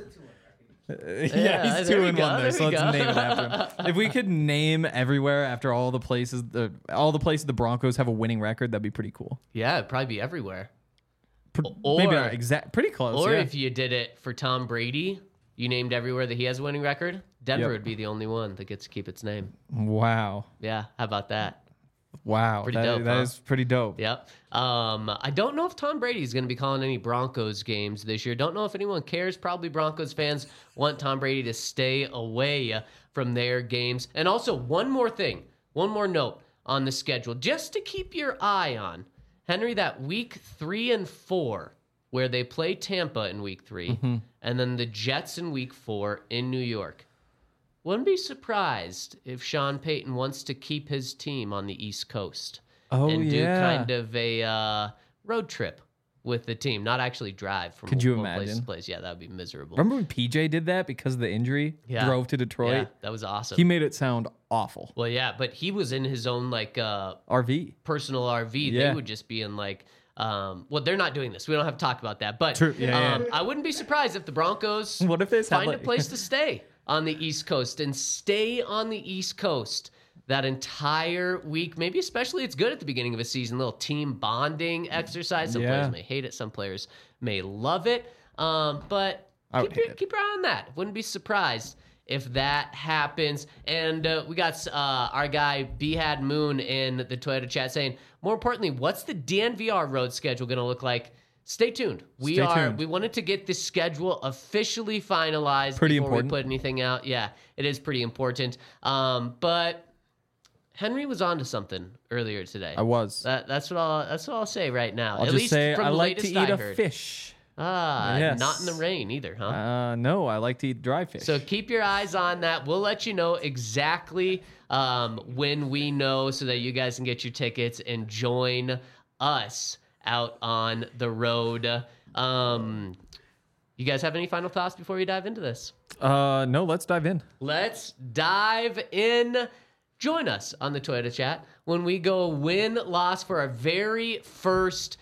He's 2-1 there, so let's name it after him. If we could name everywhere after all the places the Broncos have a winning record, that'd be pretty cool. Yeah, it'd probably be everywhere. Maybe not pretty close. Or if you did it for Tom Brady, you named everywhere that he has a winning record, Denver would be the only one that gets to keep its name. Wow. Yeah, how about that? Wow, that is pretty dope. Yep. I don't know if Tom Brady is going to be calling any Broncos games this year. Don't know if anyone cares. Probably Broncos fans want Tom Brady to stay away from their games. And also, one more note on the schedule, just to keep your eye on. Henry, that week 3 and 4, where they play Tampa in week 3, and then the Jets in week 4 in New York. Wouldn't be surprised if Sean Payton wants to keep his team on the East Coast and do kind of a road trip with the team, not actually drive from place to place. Yeah, that would be miserable. Remember when PJ did that because of the injury? Yeah. Drove to Detroit? Yeah, that was awesome. He made it sound awful. Well, yeah, but he was in his own RV. Personal RV. Yeah. They would just be in well, they're not doing this. We don't have to talk about that. But True. Yeah. I wouldn't be surprised if the Broncos find a place to stay on the East Coast and stay on the East Coast that entire week. Maybe especially it's good at the beginning of a season, little team bonding exercise. Some players may hate it. Some players may love it. But keep your eye on that. Wouldn't be surprised if that happens. And we got our guy Behad Moon in the Toyota chat saying, more importantly, what's the DNVR road schedule going to look like? Stay tuned. We wanted to get the schedule officially finalized before we put anything out. Yeah, it is pretty important. But Henry was onto something earlier today. I was. That's what I'll say right now. I'll At just least say from I the like to latest eat I a heard. fish. Yes. Not in the rain either, huh? No, I like to eat dry fish. So keep your eyes on that. We'll let you know exactly when we know so that you guys can get your tickets and join us out on the road. You guys have any final thoughts before we dive into this? No, let's dive in. Let's dive in. Join us on the Toyota chat when we go win-loss for our very first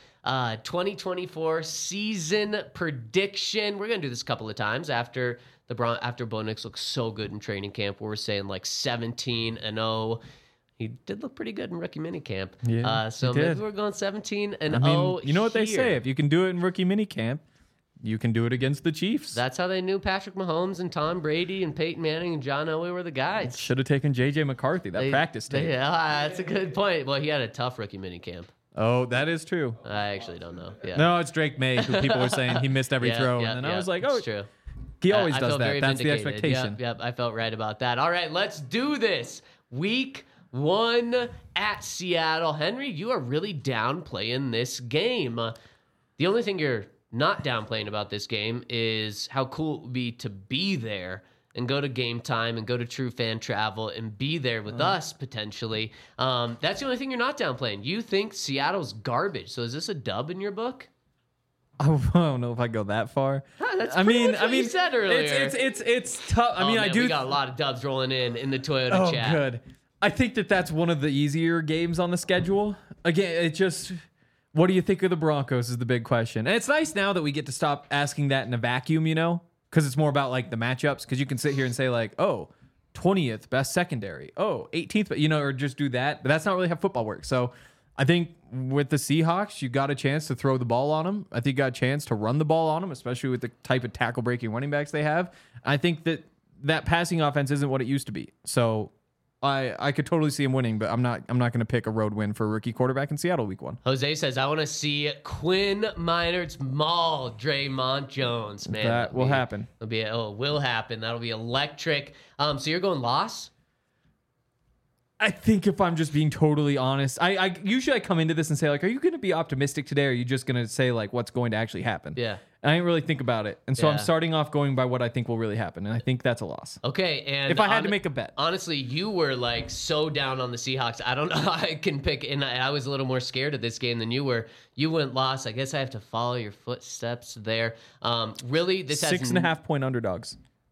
2024 season prediction. We're going to do this a couple of times after Bo Nix looks so good in training camp. We're saying like 17-0. He did look pretty good in rookie minicamp. Yeah, so maybe we're going 17-0. I mean, you know what they here. say? If you can do it in rookie minicamp, you can do it against the Chiefs. That's how they knew Patrick Mahomes and Tom Brady and Peyton Manning and John Elway were the guys. Should have taken J.J. McCarthy, practice tape. Yeah, that's a good point. Well, he had a tough rookie minicamp. Oh, that is true. I actually don't know. Yeah. No, it's Drake May, who people were saying he missed every throw. And then I was like, oh, it's true. He always does felt that. very That's vindicated. the expectation. Yep, I felt right about that. All right, let's do this. Week 1 at Seattle. Henry, you are really downplaying this game. The only thing you're not downplaying about this game is how cool it would be to be there and go to Game Time and go to True Fan Travel and be there with us potentially. That's the only thing you're not downplaying. You think Seattle's garbage. So is this a dub in your book? I don't know if I go that far. That's pretty much what you said earlier. It's tough. I mean, I do. We got a lot of dubs rolling in the Toyota chat. Oh, good. I think that's one of the easier games on the schedule. Again, it just. What do you think of the Broncos is the big question. And it's nice now that we get to stop asking that in a vacuum, because it's more about like the matchups. Because you can sit here and say like, oh, 20th best secondary, 18th, or just do that. But that's not really how football works. So I think with the Seahawks, you got a chance to throw the ball on them. I think you got a chance to run the ball on them, especially with the type of tackle breaking running backs they have. I think that passing offense isn't what it used to be. So I could totally see him winning, but I'm not going to pick a road win for a rookie quarterback in Seattle week 1. Jose says, I want to see Quinn Meinerz maul Draymond Jones, man. That will happen. It will happen. That'll be electric. So you're going loss? I think if I'm just being totally honest, I usually come into this and say like, are you going to be optimistic today? Or are you just going to say like what's going to actually happen? Yeah. And I didn't really think about it. And so I'm starting off going by what I think will really happen. And I think that's a loss. Okay. And if I had to make a bet. Honestly, you were like so down on the Seahawks. I don't know how I can pick. And I was a little more scared of this game than you were. You went loss. I guess I have to follow your footsteps there. Really, this has 6.5 point underdogs.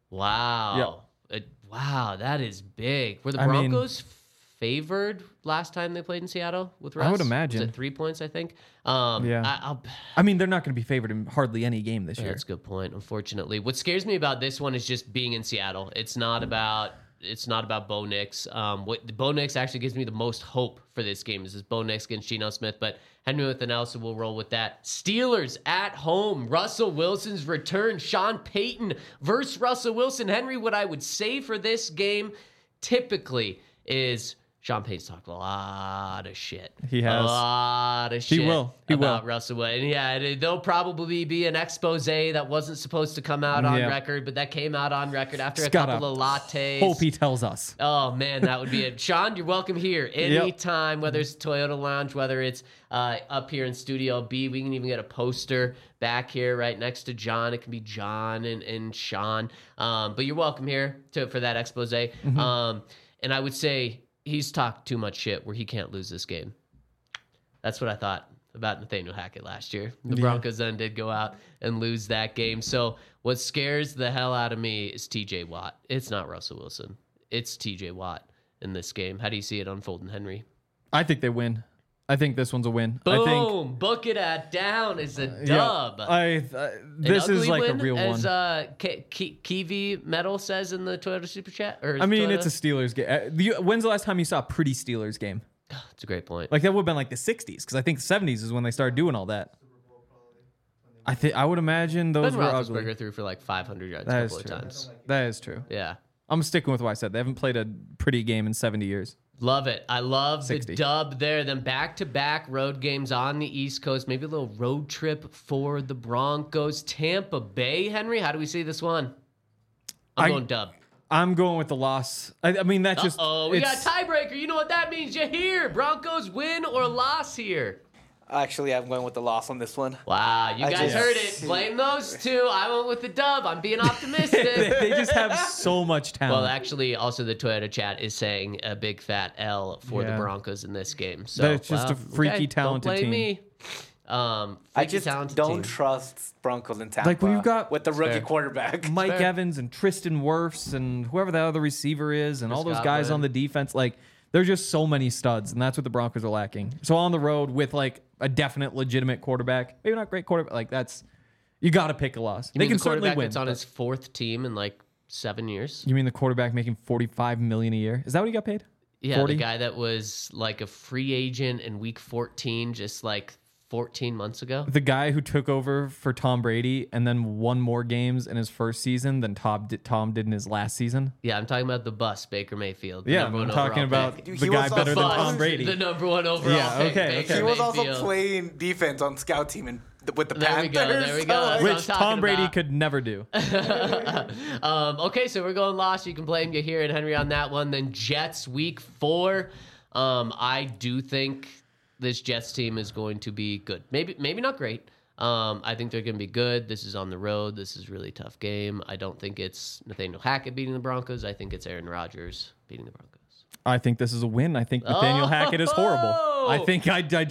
Wow. Yep. Wow. That is big. Were the Broncos favored last time they played in Seattle with Russ? I would imagine. Was it 3 points, I think? Yeah. I mean, they're not going to be favored in hardly any game this year. That's a good point, unfortunately. What scares me about this one is just being in Seattle. It's not about Bo Nix. What Bo Nix actually gives me the most hope for this game is Bo Nix against Geno Smith, but Henry with the Nelson will roll with that. Steelers at home. Russell Wilson's return. Sean Payton versus Russell Wilson. Henry, what I would say for this game typically is Sean Payton's talked a lot of shit. He has. A lot of shit about Russell Wilson. And yeah, there'll probably be an expose that wasn't supposed to come out on record, but that came out on record after a couple of lattes. Hope he tells us. Oh, man, that would be it. Sean, you're welcome here anytime, whether it's Toyota Lounge, whether it's up here in Studio B. We can even get a poster back here right next to John. It can be John and Sean. But you're welcome here for that expose. Mm-hmm. And I would say he's talked too much shit where he can't lose this game. That's what I thought about Nathaniel Hackett last year. The Broncos then did go out and lose that game. So what scares the hell out of me is TJ Watt. It's not Russell Wilson. It's TJ Watt in this game. How do you see it unfolding, Henry? I think they win. I think this one's a win. Boom! Book it at down is a dub. This is like a real one. As Kiwi Metal says in the Toyota Super Chat. I mean, it's a Steelers game. When's the last time you saw a pretty Steelers game? That's a great point. Like that would have been like the 60s, because I think the 70s is when they started doing all that. I would imagine those were ugly. Roethlisberger threw for like 500 yards a couple of times. That is true. Yeah. I'm sticking with what I said. They haven't played a pretty game in 70 years. Love it. I love 60. the dub there. Then back-to-back road games on the East Coast. Maybe a little road trip for the Broncos. Tampa Bay, Henry, how do we see this one? I'm going dub. I'm going with the loss. I mean, that's just... we got a tiebreaker. You know what that means. You hear. Broncos win or loss here. Actually, I'm going with the loss on this one. Wow, you guys heard it. Blame those two. I went with the dub. I'm being optimistic. they just have so much talent. Well, actually, also the Toyota chat is saying a big fat L for the Broncos in this game. So it's just a freaky talented don't blame team. Me. I just don't trust Broncos in Tampa. Like when you've got with the rookie quarterback, Mike Evans and Tristan Wirfs and whoever the other receiver is, and all those guys on the defense, like there's just so many studs, and that's what the Broncos are lacking. So on the road with like a definite legitimate quarterback, maybe not great quarterback, like that's you got to pick a loss. They can certainly win. It's on his fourth team in like 7 years. You mean the quarterback making $45 million a year? Is that what he got paid? Yeah, 40? The guy that was like a free agent in week 14, just like 14 months ago. The guy who took over for Tom Brady and then won more games in his first season than Tom did in his last season. Yeah, I'm talking about the bus, Baker Mayfield. Yeah, I'm talking about the guy better than Tom Brady. The number one overall pick, okay. Baker He was Mayfield. also playing defense on scout team with the Panthers. There we go. Which Tom Brady could never do. Okay, so we're going loss. You can blame you here and Henry on that one. Then Jets week 4. I do think this Jets team is going to be good. Maybe not great. I think they're going to be good. This is on the road. This is a really tough game. I don't think it's Nathaniel Hackett beating the Broncos. I think it's Aaron Rodgers beating the Broncos. I think this is a win. I think Nathaniel Hackett is horrible. I think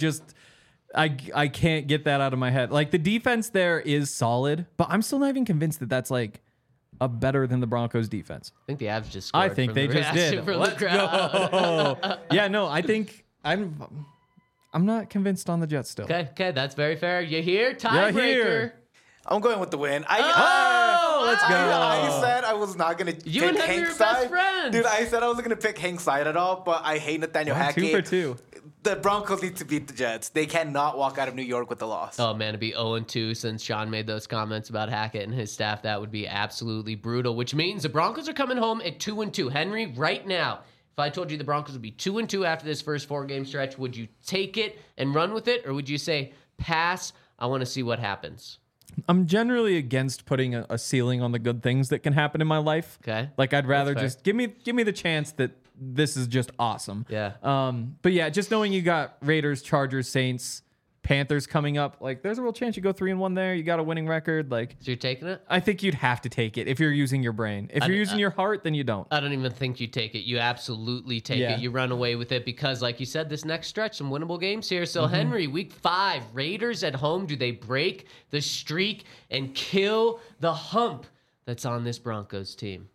I can't get that out of my head. Like the defense there is solid, but I'm still not even convinced that that's like a better than the Broncos defense. I think the Avs just scored. I think they just did. Let's go. Yeah, no, I think I'm not convinced on the Jets still. Okay, that's very fair. You hear? Tiebreaker. I'm going with the win. Let's go. I said I was not going to pick You and Henry are Hank's best side. friends. Dude, I said I wasn't going to pick Hank's side at all, but I hate Nathaniel Hackett. 2 for 2. The Broncos need to beat the Jets. They cannot walk out of New York with a loss. Oh, man, to be 0-2 since Sean made those comments about Hackett and his staff, that would be absolutely brutal, which means the Broncos are coming home at 2-2. Henry, right now, if I told you the Broncos would be 2-2 after this first 4-game stretch, would you take it and run with it, or would you say, pass, I want to see what happens? I'm generally against putting a ceiling on the good things that can happen in my life. Okay. Like I'd rather just give me the chance that this is just awesome. Yeah. But yeah, just knowing you got Raiders, Chargers, Saints, Panthers coming up, like there's a real chance you go 3-1 there. You got a winning record. Like, So you're taking it? I think you'd have to take it if you're using your brain. If you're using your heart, then you don't. I don't even think you take it. You absolutely take it. You run away with it because, like you said, this next stretch, some winnable games here. So, Henry, week 5, Raiders at home. Do they break the streak and kill the hump that's on this Broncos team?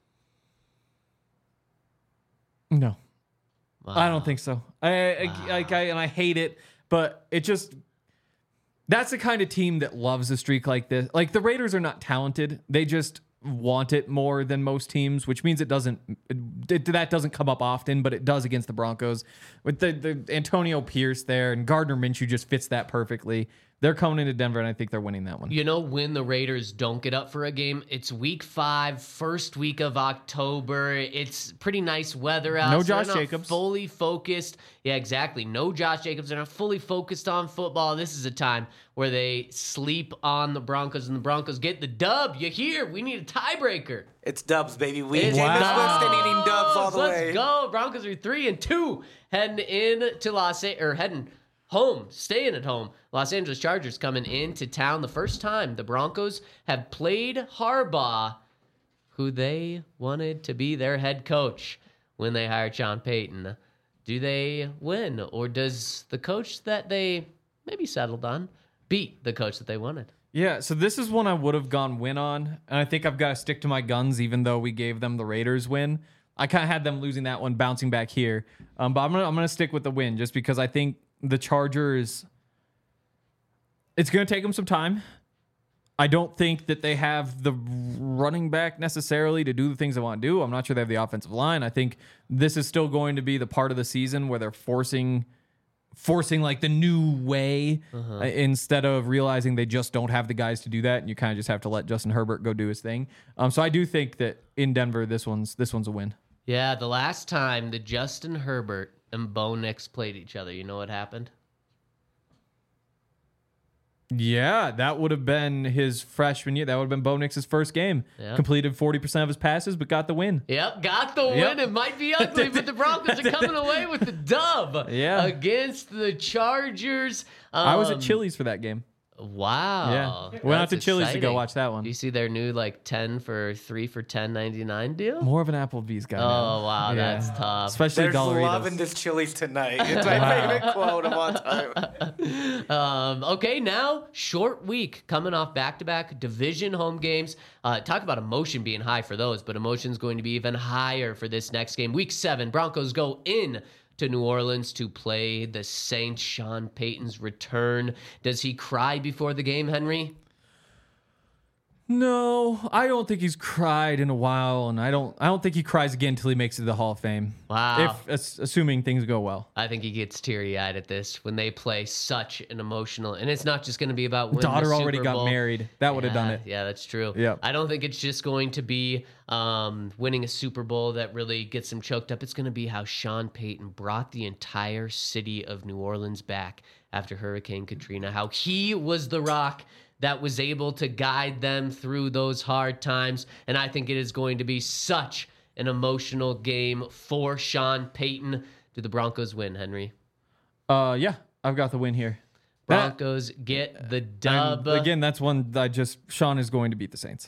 No. Wow. I don't think so. I hate it, but it just... That's the kind of team that loves a streak like this. Like the Raiders are not talented. They just want it more than most teams, which means that doesn't come up often, but it does against the Broncos. With the Antonio Pierce there and Gardner Minshew just fits that perfectly. They're coming into Denver, and I think they're winning that one. You know when the Raiders don't get up for a game? It's week 5, first week of October. It's pretty nice weather out. No so Josh they're not Jacobs. Fully focused. Yeah, exactly. No Josh Jacobs. They're not fully focused on football. This is a time where they sleep on the Broncos, and the Broncos get the dub. You hear? We need a tiebreaker. It's dubs, baby. We It's Jameis dubs. Winston eating dubs all the way. Let's go. Broncos are 3-2, heading home, staying at home. Los Angeles Chargers coming into town the first time the Broncos have played Harbaugh, who they wanted to be their head coach when they hired Sean Payton. Do they win, or does the coach that they maybe settled on beat the coach that they wanted? Yeah, so this is one I would have gone win on, and I think I've got to stick to my guns even though we gave them the Raiders win. I kind of had them losing that one, bouncing back here. But I'm gonna stick with the win just because I think the Chargers, it's going to take them some time. I don't think that they have the running back necessarily to do the things they want to do. I'm not sure they have the offensive line. I think this is still going to be the part of the season where they're forcing forcing like the new way instead of realizing they just don't have the guys to do that, and you kind of just have to let Justin Herbert go do his thing. So I do think that in Denver, this one's a win. Yeah, the last time that Justin Herbert and Bo Nix played each other, you know what happened? Yeah, that would have been his freshman year. That would have been Bo Nix's first game. Yeah. Completed 40% of his passes, but got the win. Yep, got the win. It might be ugly, but the Broncos are coming away with the dub against the Chargers. I was at Chili's for that game. Wow. Yeah. Went out to Chili's to go watch that one. Do you see their new 10 for 3 for $10.99 deal? More of an Applebee's guy. Oh, wow. That's tough. Especially There's Dollaritos. love in this Chili's tonight. It's my favorite quote of all time. Okay, now short week coming off back-to-back division home games. Talk about emotion being high for those, but emotion's going to be even higher for this next game. Week 7, Broncos go in to New Orleans to play the Saints. Sean Payton's return. Does he cry before the game, Henry? No, I don't think he's cried in a while, and I don't think he cries again until he makes it to the Hall of Fame. Wow. Assuming things go well. I think he gets teary-eyed at this when they play such an emotional, and it's not just going to be about winning Daughter the already Super Bowl. got married. That would have done it. Yeah, that's true. Yep. I don't think it's just going to be winning a Super Bowl that really gets him choked up. It's going to be how Sean Payton brought the entire city of New Orleans back after Hurricane Katrina, how he was the rock that was able to guide them through those hard times. And I think it is going to be such an emotional game for Sean Payton. Do the Broncos win, Henry? Yeah, I've got the win here. Broncos get the dub. Again, that's one that Sean is going to beat the Saints.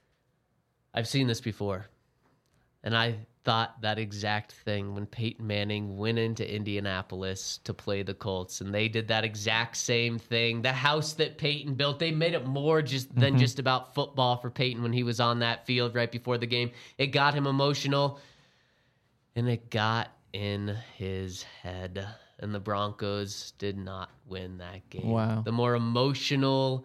I've seen this before. And I thought that exact thing when Peyton Manning went into Indianapolis to play the Colts, and they did that exact same thing. The house that Peyton built, they made it more than just about football for Peyton when he was on that field right before the game. It got him emotional, and it got in his head, and the Broncos did not win that game. Wow. The more emotional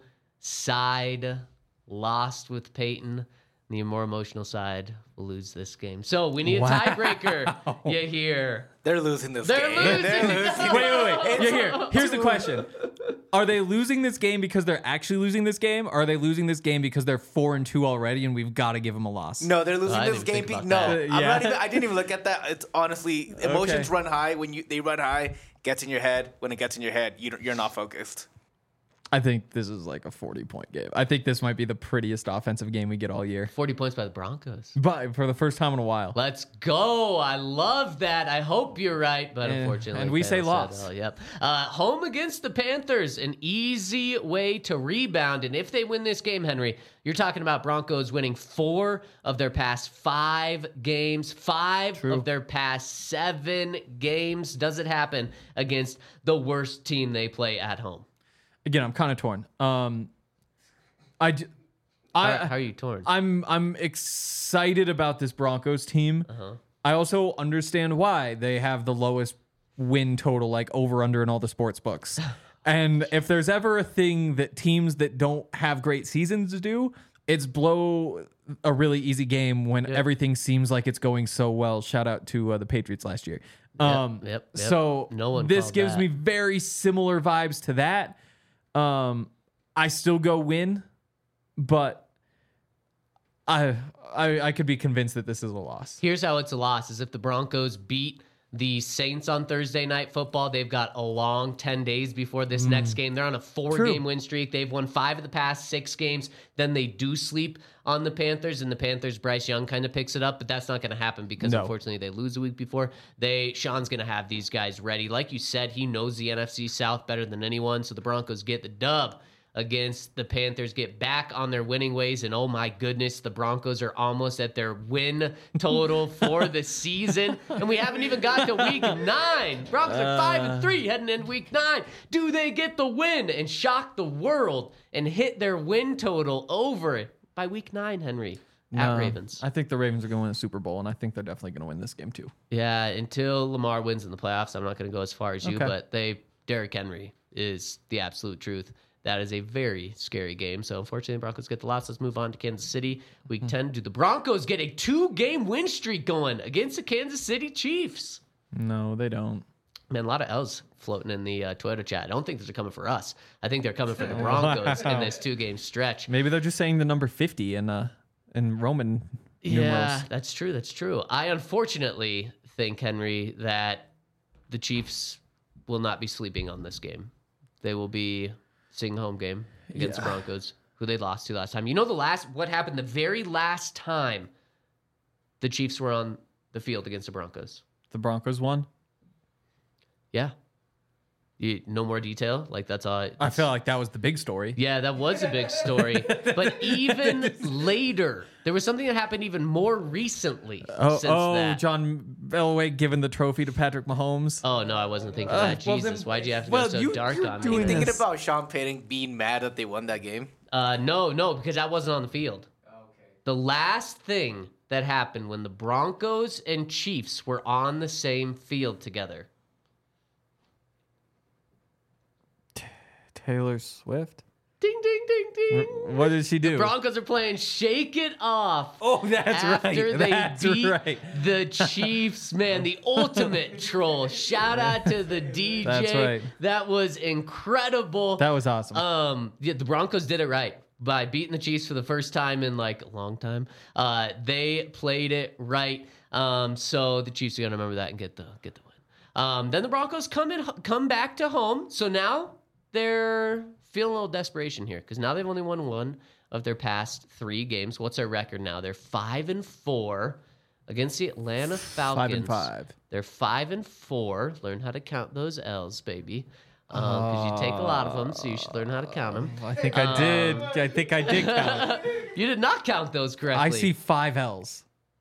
side lost with Peyton. The more emotional side will lose this game. So we need a tiebreaker. You hear? They're losing this game. They're losing. Wait. Here's the question. Are they losing this game because they're actually losing this game? Or are they losing this game because they're 4-2 already and we've got to give them a loss? No, they're losing this game. I didn't even look at that. It's honestly, emotions run high when they run high. Gets in your head. When it gets in your head, you're not focused. I think this is like a 40-point game. I think this might be the prettiest offensive game we get all year. 40 points by the Broncos. But for the first time in a while. Let's go. I love that. I hope you're right, but unfortunately. And we say loss. Yep. Home against the Panthers, an easy way to rebound. And if they win this game, Henry, you're talking about Broncos winning 4 of their past 5 games, 5 of their past 7 games. Does it happen against the worst team they play at home? Again, I'm kind of torn. How are you torn? I'm excited about this Broncos team. I also understand why they have the lowest win total, like over under in all the sports books. And if there's ever a thing that teams that don't have great seasons do, it's blow a really easy game when everything seems like it's going so well. Shout out to the Patriots last year. Yep. So no one this gives me very similar vibes to that. I still go win, but I could be convinced that this is a loss. Here's how it's a loss: is if the Broncos beat the Saints on Thursday Night Football, they've got a long 10 days before this next game. They're on a 4-game win streak. They've won 5 of the past 6 games. Then they do sleep on the Panthers, and the Panthers, Bryce Young kind of picks it up, but that's not going to happen because unfortunately they lose a week before. Sean's going to have these guys ready. Like you said, he knows the NFC South better than anyone, so the Broncos get the dub against the Panthers, get back on their winning ways, and oh my goodness, the Broncos are almost at their win total for the season, and we haven't even got to week 9. Broncos are 5-3 heading into week 9. Do they get the win and shock the world and hit their win total over it by week 9, Henry? At Ravens. I think the Ravens are going to win the Super Bowl, and I think they're definitely going to win this game too. Yeah, until Lamar wins in the playoffs, I'm not going to go as far as you, but Derrick Henry is the absolute truth. That is a very scary game. So, unfortunately, the Broncos get the loss. Let's move on to Kansas City. Week 10, do the Broncos get a 2-game win streak going against the Kansas City Chiefs? No, they don't. Man, a lot of L's floating in the Toyota chat. I don't think they're coming for us. I think they're coming for the Broncos in this 2-game stretch. Maybe they're just saying the number 50 in Roman numerals. That's true. That's true. I unfortunately think, Henry, that the Chiefs will not be sleeping on this game. They will be seeing a home game against the Broncos, who they lost to last time. You know what happened the very last time the Chiefs were on the field against the Broncos? The Broncos won? Yeah. No more detail? Like, that's all. I feel like that was the big story. Yeah, that was a big story. But even later, there was something that happened even more recently since that. John Elway giving the trophy to Patrick Mahomes. Oh, no, I wasn't thinking that. Jesus, why'd you have to go so dark on me? Are you thinking about Sean Payton being mad that they won that game? No, because I wasn't on the field. Okay. The last thing that happened when the Broncos and Chiefs were on the same field together. Taylor Swift? Ding, ding, ding, ding. What did she do? The Broncos are playing Shake It Off. Oh, that's after right. After they beat the Chiefs, man, the ultimate troll. Shout out to the DJ. That's right. That was incredible. That was awesome. The Broncos did it right by beating the Chiefs for the first time in like a long time. They played it right. So the Chiefs are gonna remember that and get the win. Then the Broncos come back to home. So now they're feeling a little desperation here because now they've only won one of their past 3 games. What's their record now? They're 5-4 against the Atlanta Falcons. 5-5. They're 5-4. Learn how to count those L's, baby. Because you take a lot of them, so you should learn how to count them. I think I did. I think I did count. You did not count those correctly. I see 5 L's.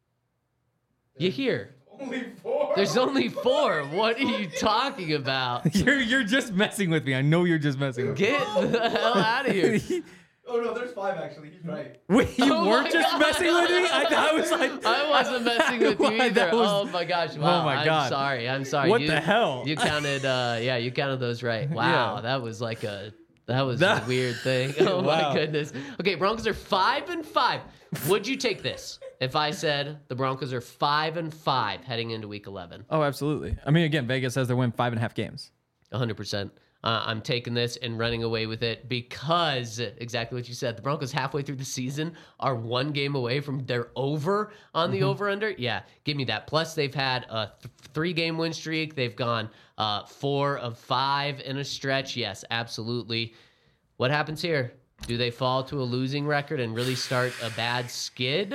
You hear? Only 4. There's only 4. What are you talking about? You're just messing with me. I know you're just messing with me. Get the hell out of here. Oh no, there's 5 actually. He's right. Wait, you Oh weren't my just God. messing with me? I was like, I wasn't messing with you That either. was- Oh my gosh! Wow. Oh my God. I'm sorry. What the hell? You counted. You counted those right. Wow, Yeah. that was like a weird thing. Oh Wow. my goodness. Okay, Broncos are 5-5. Would you take this if I said the Broncos are 5-5 heading into Week 11? oh, absolutely. I mean, again, Vegas says they win 5.5 games. 100%. I'm taking this and running away with it because exactly what you said. The Broncos halfway through the season are 1 game away from their over on the over-under. Yeah, give me that. Plus, they've had a 3-game win streak. They've gone 4 of 5 in a stretch. Yes, absolutely. What happens here? Do they fall to a losing record and really start a bad skid?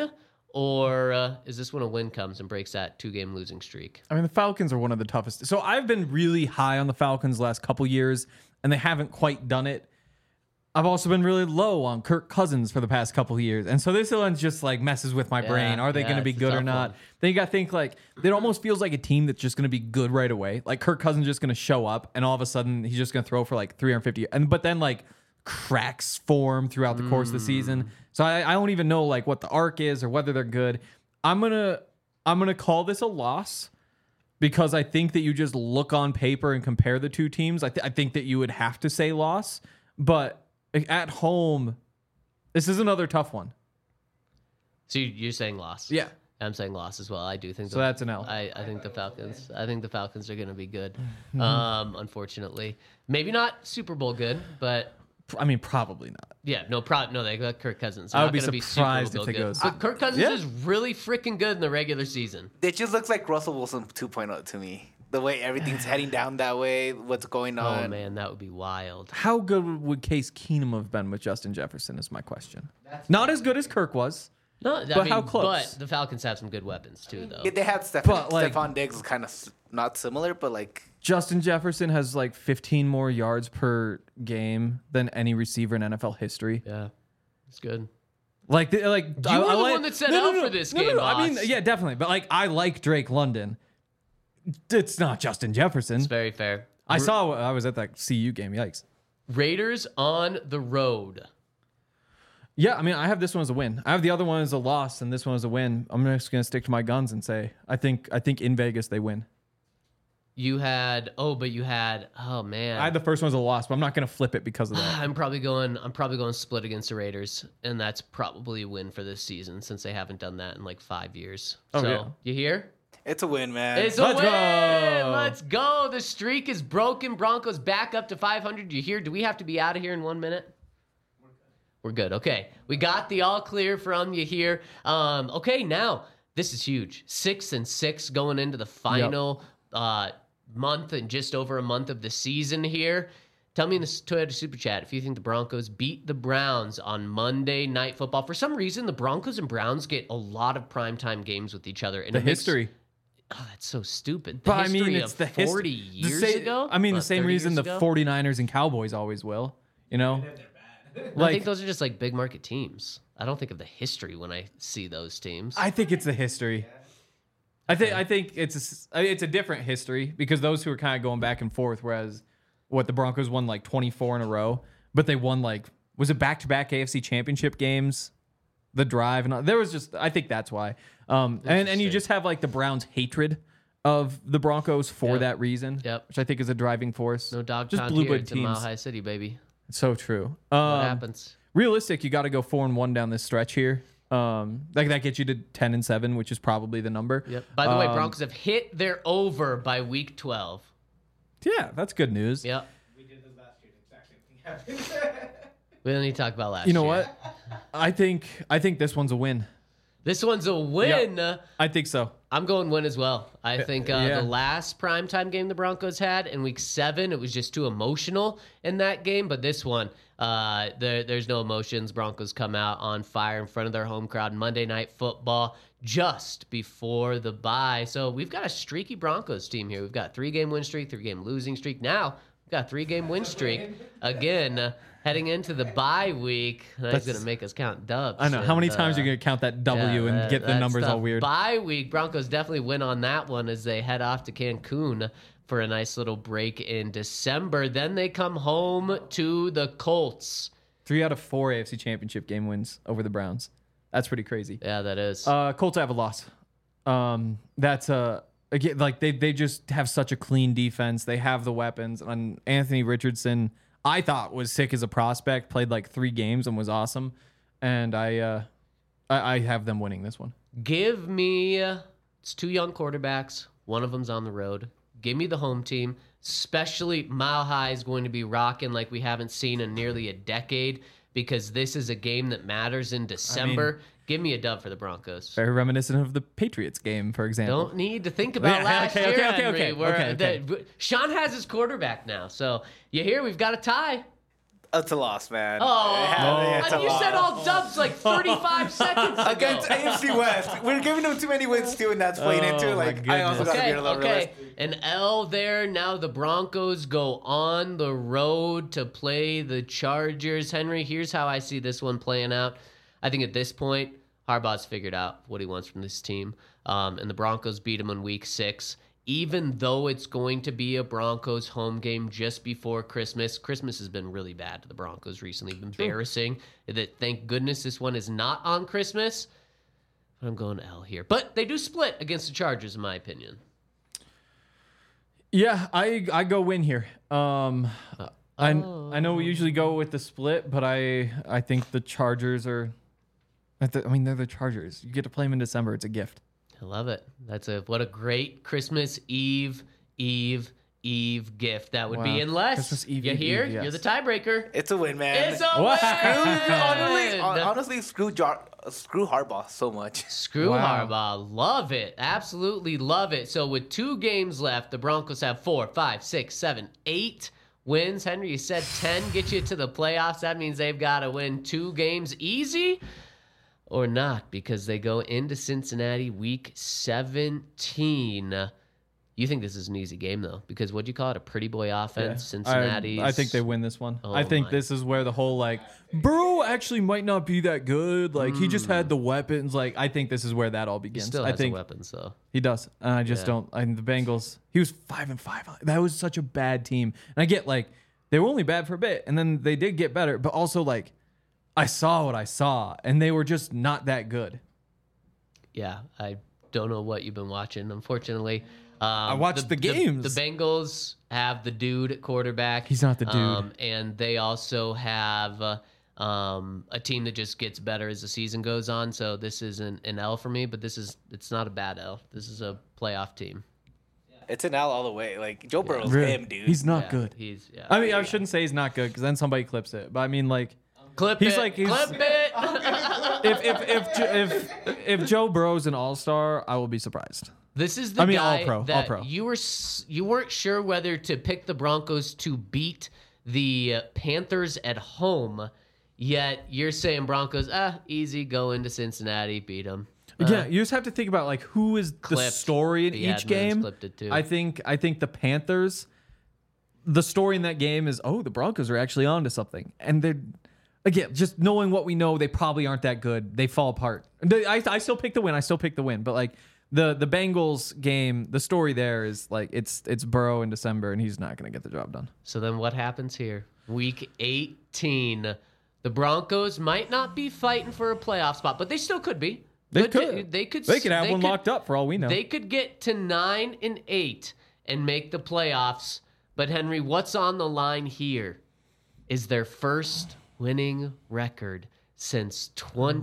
Or is this when a win comes and breaks that 2-game losing streak? I mean, the Falcons are one of the toughest. So I've been really high on the Falcons the last couple years, and they haven't quite done it. I've also been really low on Kirk Cousins for the past couple of years. And so this one just like messes with my brain. Are they going to be it's a good or tough not? one. Then you got to think like it almost feels like a team that's just going to be good right away. Like Kirk Cousins just going to show up and all of a sudden he's just going to throw for like 350. But then like cracks form throughout the course of the season. So I don't even know like what the arc is or whether they're good. I'm gonna call this a loss because I think that you just look on paper and compare the two teams. I think that you would have to say loss, but at home, this is another tough one. So you're saying loss? Yeah. I'm saying loss as well. I do think So that's an L. I think the Falcons. I think the Falcons are going to be good. Unfortunately, maybe not Super Bowl good, but I mean, probably not. yeah, no, they got Kirk Cousins. I would They're be not gonna surprised Super if Bowl it good. goes- But Kirk Cousins yeah. is really freaking good in the regular season. It just looks like Russell Wilson 2.0 to me. The way everything's heading down that way, what's going on. Oh man, that would be wild. How good would Case Keenum have been with Justin Jefferson is my question. Not as good as Kirk was. No, I But mean, how close? But the Falcons have some good weapons too, though. Yeah, they had But, like- Stephon Diggs is kind of not similar, but like Justin Jefferson has like 15 more yards per game than any receiver in NFL history. Yeah, it's good. Like, you were the one that said out for this game, I mean, boss. yeah, definitely. But like, I like Drake London. It's not Justin Jefferson. It's very fair. I was at that CU game. Yikes. Raiders on the road. Yeah, I mean, I have this one as a win. I have the other one as a loss, and this one as a win. I'm just gonna stick to my guns and say I think in Vegas they win. You had oh man. I had the first one as a loss, but I'm not gonna flip it because of that. I'm probably going split against the Raiders, and that's probably a win for this season since they haven't done that in like 5 years. Oh, So yeah. you hear? It's a win, man. It's a Let's win. go. Let's go. The streak is broken. Broncos back up to 500. You hear? Do we have to be out of here in 1 minute? We're good. Okay. We got the all clear from you here. Okay, now this is huge. 6-6 going into the final month and just over a month of the season here. Tell me in the Toyota Super Chat if you think the Broncos beat the Browns on Monday Night Football. For some reason, the Broncos and Browns get a lot of primetime games with each other. And The history. Oh, that's so stupid. But I mean, it's of the 40 years ago? I mean, the What, same 30 reason years the ago? 49ers and Cowboys always will. You know? I think those are just like big market teams. I don't think of the history when I see those teams. I think it's the history. I think it's a different history because those who are kind of going back and forth, whereas the Broncos won like 24 in a row, but they won was it back-to-back AFC Championship games? The drive and all, there was just, I think that's why. And you just have like the Browns' hatred of the Broncos for that reason, which I think is a driving force. No dog just pound blue here. blood It's in Mile teams. High City, baby. It's so true. What happens? Realistic, you got to go 4-1 down this stretch here. That gets you to 10-7, which is probably the number. Yep. By the way, Broncos have hit their over by week 12. Yeah, that's good news. Yep. We did this last year. The exact same thing happened. We don't need to talk about last You know year. what? I think this one's a win. This one's a win. Yep. I think so. I'm going win as well. I think yeah. the last primetime game the Broncos had in week 7, it was just too emotional in that game. But this one, there's no emotions. Broncos come out on fire in front of their home crowd. Monday Night Football just before the bye. So we've got a streaky Broncos team here. We've got 3-game win streak, 3-game losing streak. Now we've got a 3-game win streak again. Heading into the bye week, that's going to make us count dubs. I know. How many times are you going to count that W and get the numbers all weird? Bye week, Broncos definitely win on that one as they head off to Cancun for a nice little break in December. Then they come home to the Colts. 3 out of 4 AFC Championship game wins over the Browns. That's pretty crazy. Yeah, that is. Colts have a loss. That's again, like they just have such a clean defense. They have the weapons. And Anthony Richardson, I thought was sick as a prospect, played like 3 games and was awesome. And I have them winning this one. Give me, it's 2 young quarterbacks. One of them's on the road. Give me the home team, especially Mile High is going to be rocking like we haven't seen in nearly a decade because this is a game that matters in December. Give me a dub for the Broncos. Very reminiscent of the Patriots game, for example. Don't need to think about last year, Henry. Sean has his quarterback now. So you hear we've got a tie. It's a loss, man. Oh, It's a you loss. said all dubs like 35 seconds ago. Against AFC West. We're giving them too many wins, too, and that's playing into it. Like, I also got to be a little realistic. An L there. Now the Broncos go on the road to play the Chargers. Henry, here's how I see this one playing out. I think at this point, Harbaugh's figured out what he wants from this team. And the Broncos beat him in week 6. Even though it's going to be a Broncos home game just before Christmas. Christmas has been really bad to the Broncos recently. Embarrassing. Thank goodness this one is not on Christmas. But I'm going L here. But they do split against the Chargers, in my opinion. Yeah, I go win here. I know we usually go with the split, but I think the Chargers are. They're the Chargers. You get to play them in December. It's a gift. I love it. What a great Christmas Eve gift that would be. Unless Christmas Eve, you hear, yes. you're the tiebreaker. It's a win, man. It's a win. Honestly, screw Harbaugh so much. Screw Harbaugh. Love it. Absolutely love it. So with 2 games left, the Broncos have 4, 5, 6, 7, 8 wins. Henry, you said 10 get you to the playoffs. That means they've got to win 2 games easy. Or not, because they go into Cincinnati week 17. You think this is an easy game, though? Because what'd you call it? A pretty boy offense? Yeah. Cincinnati's. I think they win this one. Oh I think this is where the whole, Burrow actually might not be that good. He just had the weapons. I think this is where that all He begins. still has the weapons, though. He does. And I just don't. The Bengals, he was 5-5. That was such a bad team. And I get, they were only bad for a bit, and then they did get better. But also, I saw what I saw, and they were just not that good. Yeah, I don't know what you've been watching, unfortunately. I watched the games. The Bengals have the dude at quarterback. He's not the dude. And they also have a team that just gets better as the season goes on. So this isn't an L for me, but it's not a bad L. This is a playoff team. It's an L all the way. Like, Joe Burrow's Really? him, dude. He's not Yeah, good. I mean, I shouldn't say he's not good because then somebody clips it. But I mean, like, clip he's it. like- he's- Clip it. if Joe Burrow's an all-star, I will be surprised. This is the I mean, guy all-pro, that all-pro. you weren't sure whether to pick the Broncos to beat the Panthers at home, yet you're saying Broncos, easy, go into Cincinnati, beat them. Yeah, you just have to think about like who is the Clipped. story in The each admins game. clipped it, too. I think the Panthers, the story in that game is, oh, the Broncos are actually onto something, and they're again just knowing what we know, they probably aren't that good. They fall apart. I still pick the win. But like the Bengals game, the story there is like it's Burrow in December, and he's not going to get the job done. So then what happens here? Week 18, the Broncos might not be fighting for a playoff spot, but they still could be. They could have one locked up for all we know. They could get to 9-8 and make the playoffs. But Henry, what's on the line here is their first winning record since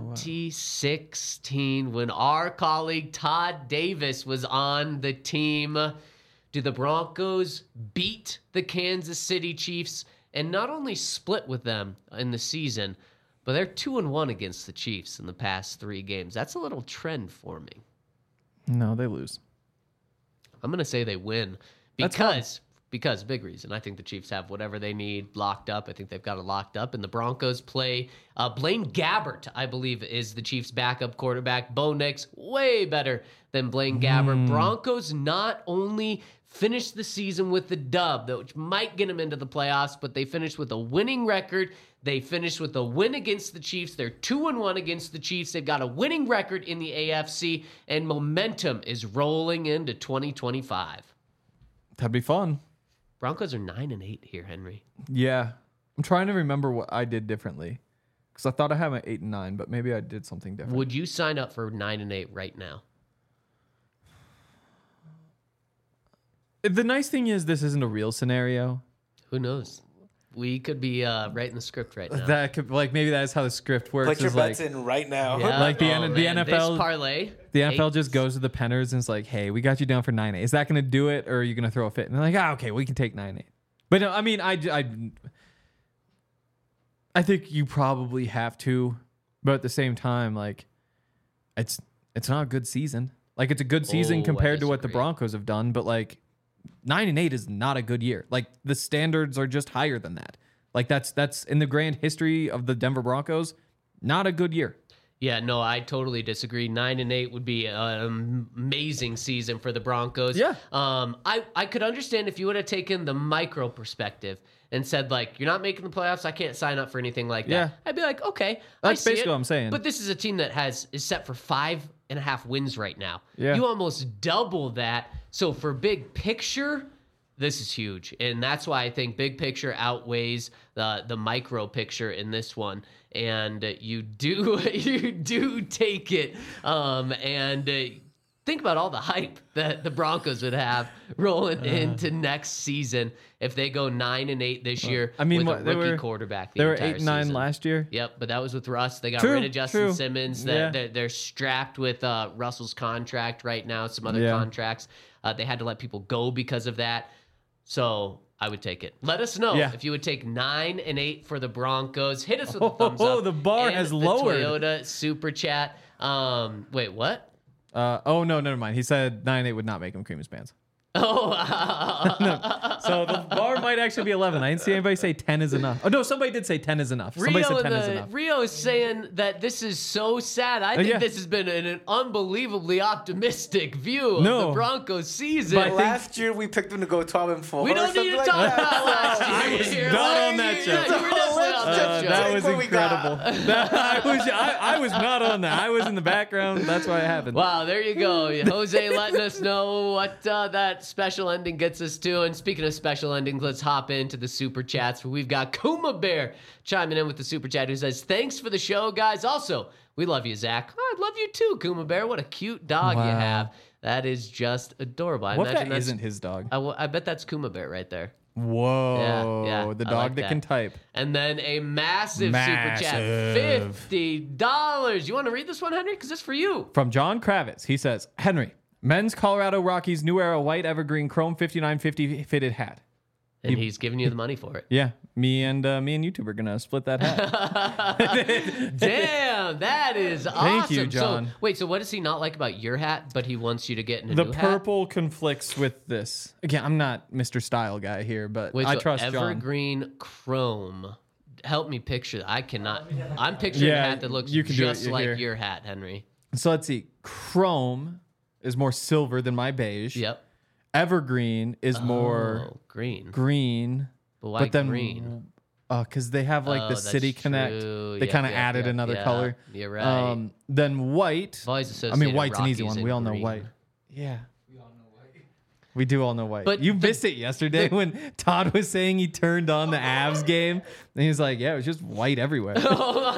2016 when our colleague Todd Davis was on the team. Do the Broncos beat the Kansas City Chiefs and not only split with them in the season, but they're 2-1 against the Chiefs in the past 3 games. That's a little trend for me. No, they lose. I'm going to say they win because big reason. I think the Chiefs have whatever they need locked up. I think they've got it locked up. And the Broncos play Blaine Gabbert, I believe, is the Chiefs' backup quarterback. Bo Nix, way better than Blaine Gabbert. Broncos not only finished the season with the dub, which might get them into the playoffs, but they finished with a winning record. They finished with a win against the Chiefs. They're 2-1 against the Chiefs. They've got a winning record in the AFC, and momentum is rolling into 2025. That'd be fun. Broncos are 9-8 here, Henry. Yeah, I'm trying to remember what I did differently because I thought I had my 8-9, but maybe I did something different. Would you sign up for 9-8 right now? The nice thing is this isn't a real scenario. Who knows? We could be writing the script right now. That could maybe that's how the script works. Put your is bets like, in right now. Yeah. Like the Man, NFL, this parlay. the NFL just goes to the Penners and it's like, hey, we got you down for 9-8. Is that going to do it, or are you going to throw a fit? And they're like, okay, we can take 9-8. But no, I mean, I think you probably have to, but at the same time, like, it's not a good season. Like, it's a good season I compared to what the disagree. Broncos have done, but like 9-8 is not a good year. Like, the standards are just higher than that. Like, that's in the grand history of the Denver Broncos, not a good year. Yeah, no, I totally disagree. 9-8 would be an amazing season for the Broncos. Yeah. I could understand if you would have taken the micro perspective and said, like, you're not making the playoffs, I can't sign up for anything like that. Yeah. I'd be like, okay, That's I see basically it. what I'm saying. But this is a team that is set for 5.5 wins right now. Yeah. You almost double that. So for big picture, this is huge. And that's why I think big picture outweighs the micro picture in this one. And you do take it. Think about all the hype that the Broncos would have rolling into next season if they go 9-8 this year. I mean, with a they rookie were- quarterback. They were entire 8-9 season. last year. Yep, but that was with Russ. They got True, rid of Justin true. Simmons. Yeah. They're strapped with Russell's contract right now, some other Yeah. contracts. They had to let people go because of that. So I would take it. Let us know Yeah. if you would take 9-8 for the Broncos. Hit us with a thumbs up. The bar and has the lowered. Toyota Super Chat. Wait, what? Oh, no, never mind. He said 9-8 would not make him cream his pants. Oh, So the bar might actually be 11. I didn't see anybody say 10 is enough. Oh, no, somebody did say 10 is enough. Somebody said 10 is enough. Rio is saying that this is so sad. I think yeah. this has been an unbelievably optimistic view of No. the Broncos season. But I think- Last year we picked them to go 12-4. we don't need to talk about last year. I was not on that show. Yeah, you were definitely on that show. That was Take what we incredible. I was not on that. I was in the background. That's why it happened. Wow, there you go. Jose letting us know what that special ending gets us to. And speaking of special endings, let's hop into the Super Chats where we've got Kuma Bear chiming in with the Super Chat who says, thanks for the show, guys. Also, we love you, Zach. Oh, I love you too, Kuma Bear. What a cute dog you Wow. have. That is just adorable. I what if imagine that that's isn't his dog? I bet that's Kuma Bear right there. Whoa. Yeah, the I dog like that can type. And then a massive super chat, $50. You want to read this one, Henry? Because it's for you. From John Kravitz. He says, Henry, men's Colorado Rockies New Era white evergreen chrome 5950 fitted hat. And he's giving you the money for it. Yeah, me and YouTube are gonna split that hat. Damn, that is awesome. Thank you, John. So, wait, so what does he not like about your hat, but he wants you to get in a The new hat? purple conflicts with this. Again, I'm not Mr. Style guy here, but I trust John. Evergreen chrome. Help me picture. I cannot. I'm picturing a hat that looks just like your hat, Henry. So let's see. Chrome is more silver than my beige. Yep. Evergreen is more green. But why green? Because they have like the City Connect. They kind of added another color. You're right. Then white. White's an easy one. We all know white. Yeah. We do all know white. But you missed it yesterday when Todd was saying he turned on the Avs game. And he was like, yeah, it was just white everywhere. Wow.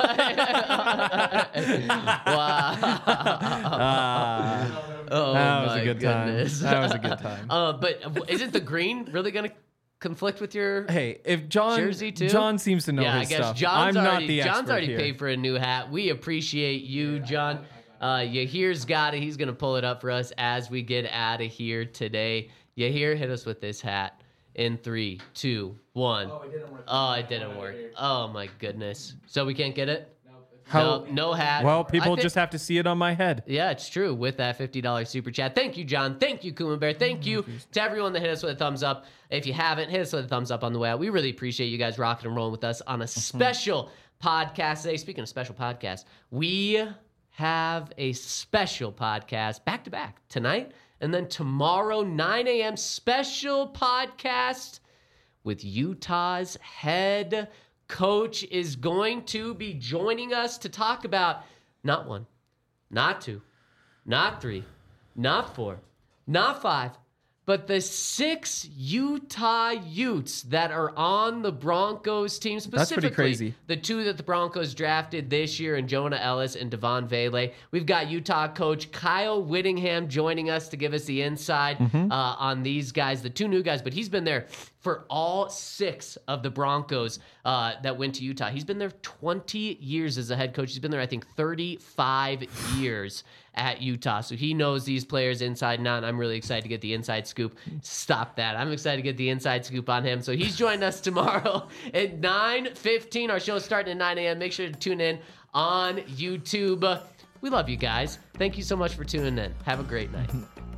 That was a good goodness. time. That was a good time. But isn't the green really going to conflict with your if John jersey too? John seems to know his I guess stuff. John's I'm already, not the expert John's already here. paid for a new hat. We appreciate you, John. Yahir's got it. He's going to pull it up for us as we get out of here today. Yahir, hit us with this hat in 3, 2, 1. Oh, it didn't work. Oh, it didn't work. Oh, my goodness. So we can't get it? How- No hat. Well, people just have to see it on my head. Yeah, it's true. With that $50 super chat. Thank you, John. Thank you, Kuma Bear. Thank you to everyone that hit us with a thumbs up. If you haven't, hit us with a thumbs up on the way out. We really appreciate you guys rocking and rolling with us on a special podcast today. Speaking of special podcasts, we have a special podcast back to back tonight and then tomorrow, 9 a.m. special podcast with Utah's head coach is going to be joining us to talk about not 1, not 2, not 3, not 4, not 5, but the 6 Utah Utes that are on the Broncos team, specifically That's pretty crazy. the 2 that the Broncos drafted this year, and Jonah Ellis and Devon Vele. We've got Utah coach Kyle Whittingham joining us to give us the inside on these guys, the 2 new guys, but he's been there for all 6 of the Broncos that went to Utah. He's been there 20 years as a head coach. He's been there, I think, 35 years at Utah. So he knows these players inside and out, and I'm really excited to get the inside scoop. Stop that. I'm excited to get the inside scoop on him. So he's joining us tomorrow at 9:15. Our show is starting at 9 a.m. Make sure to tune in on YouTube. We love you guys. Thank you so much for tuning in. Have a great night.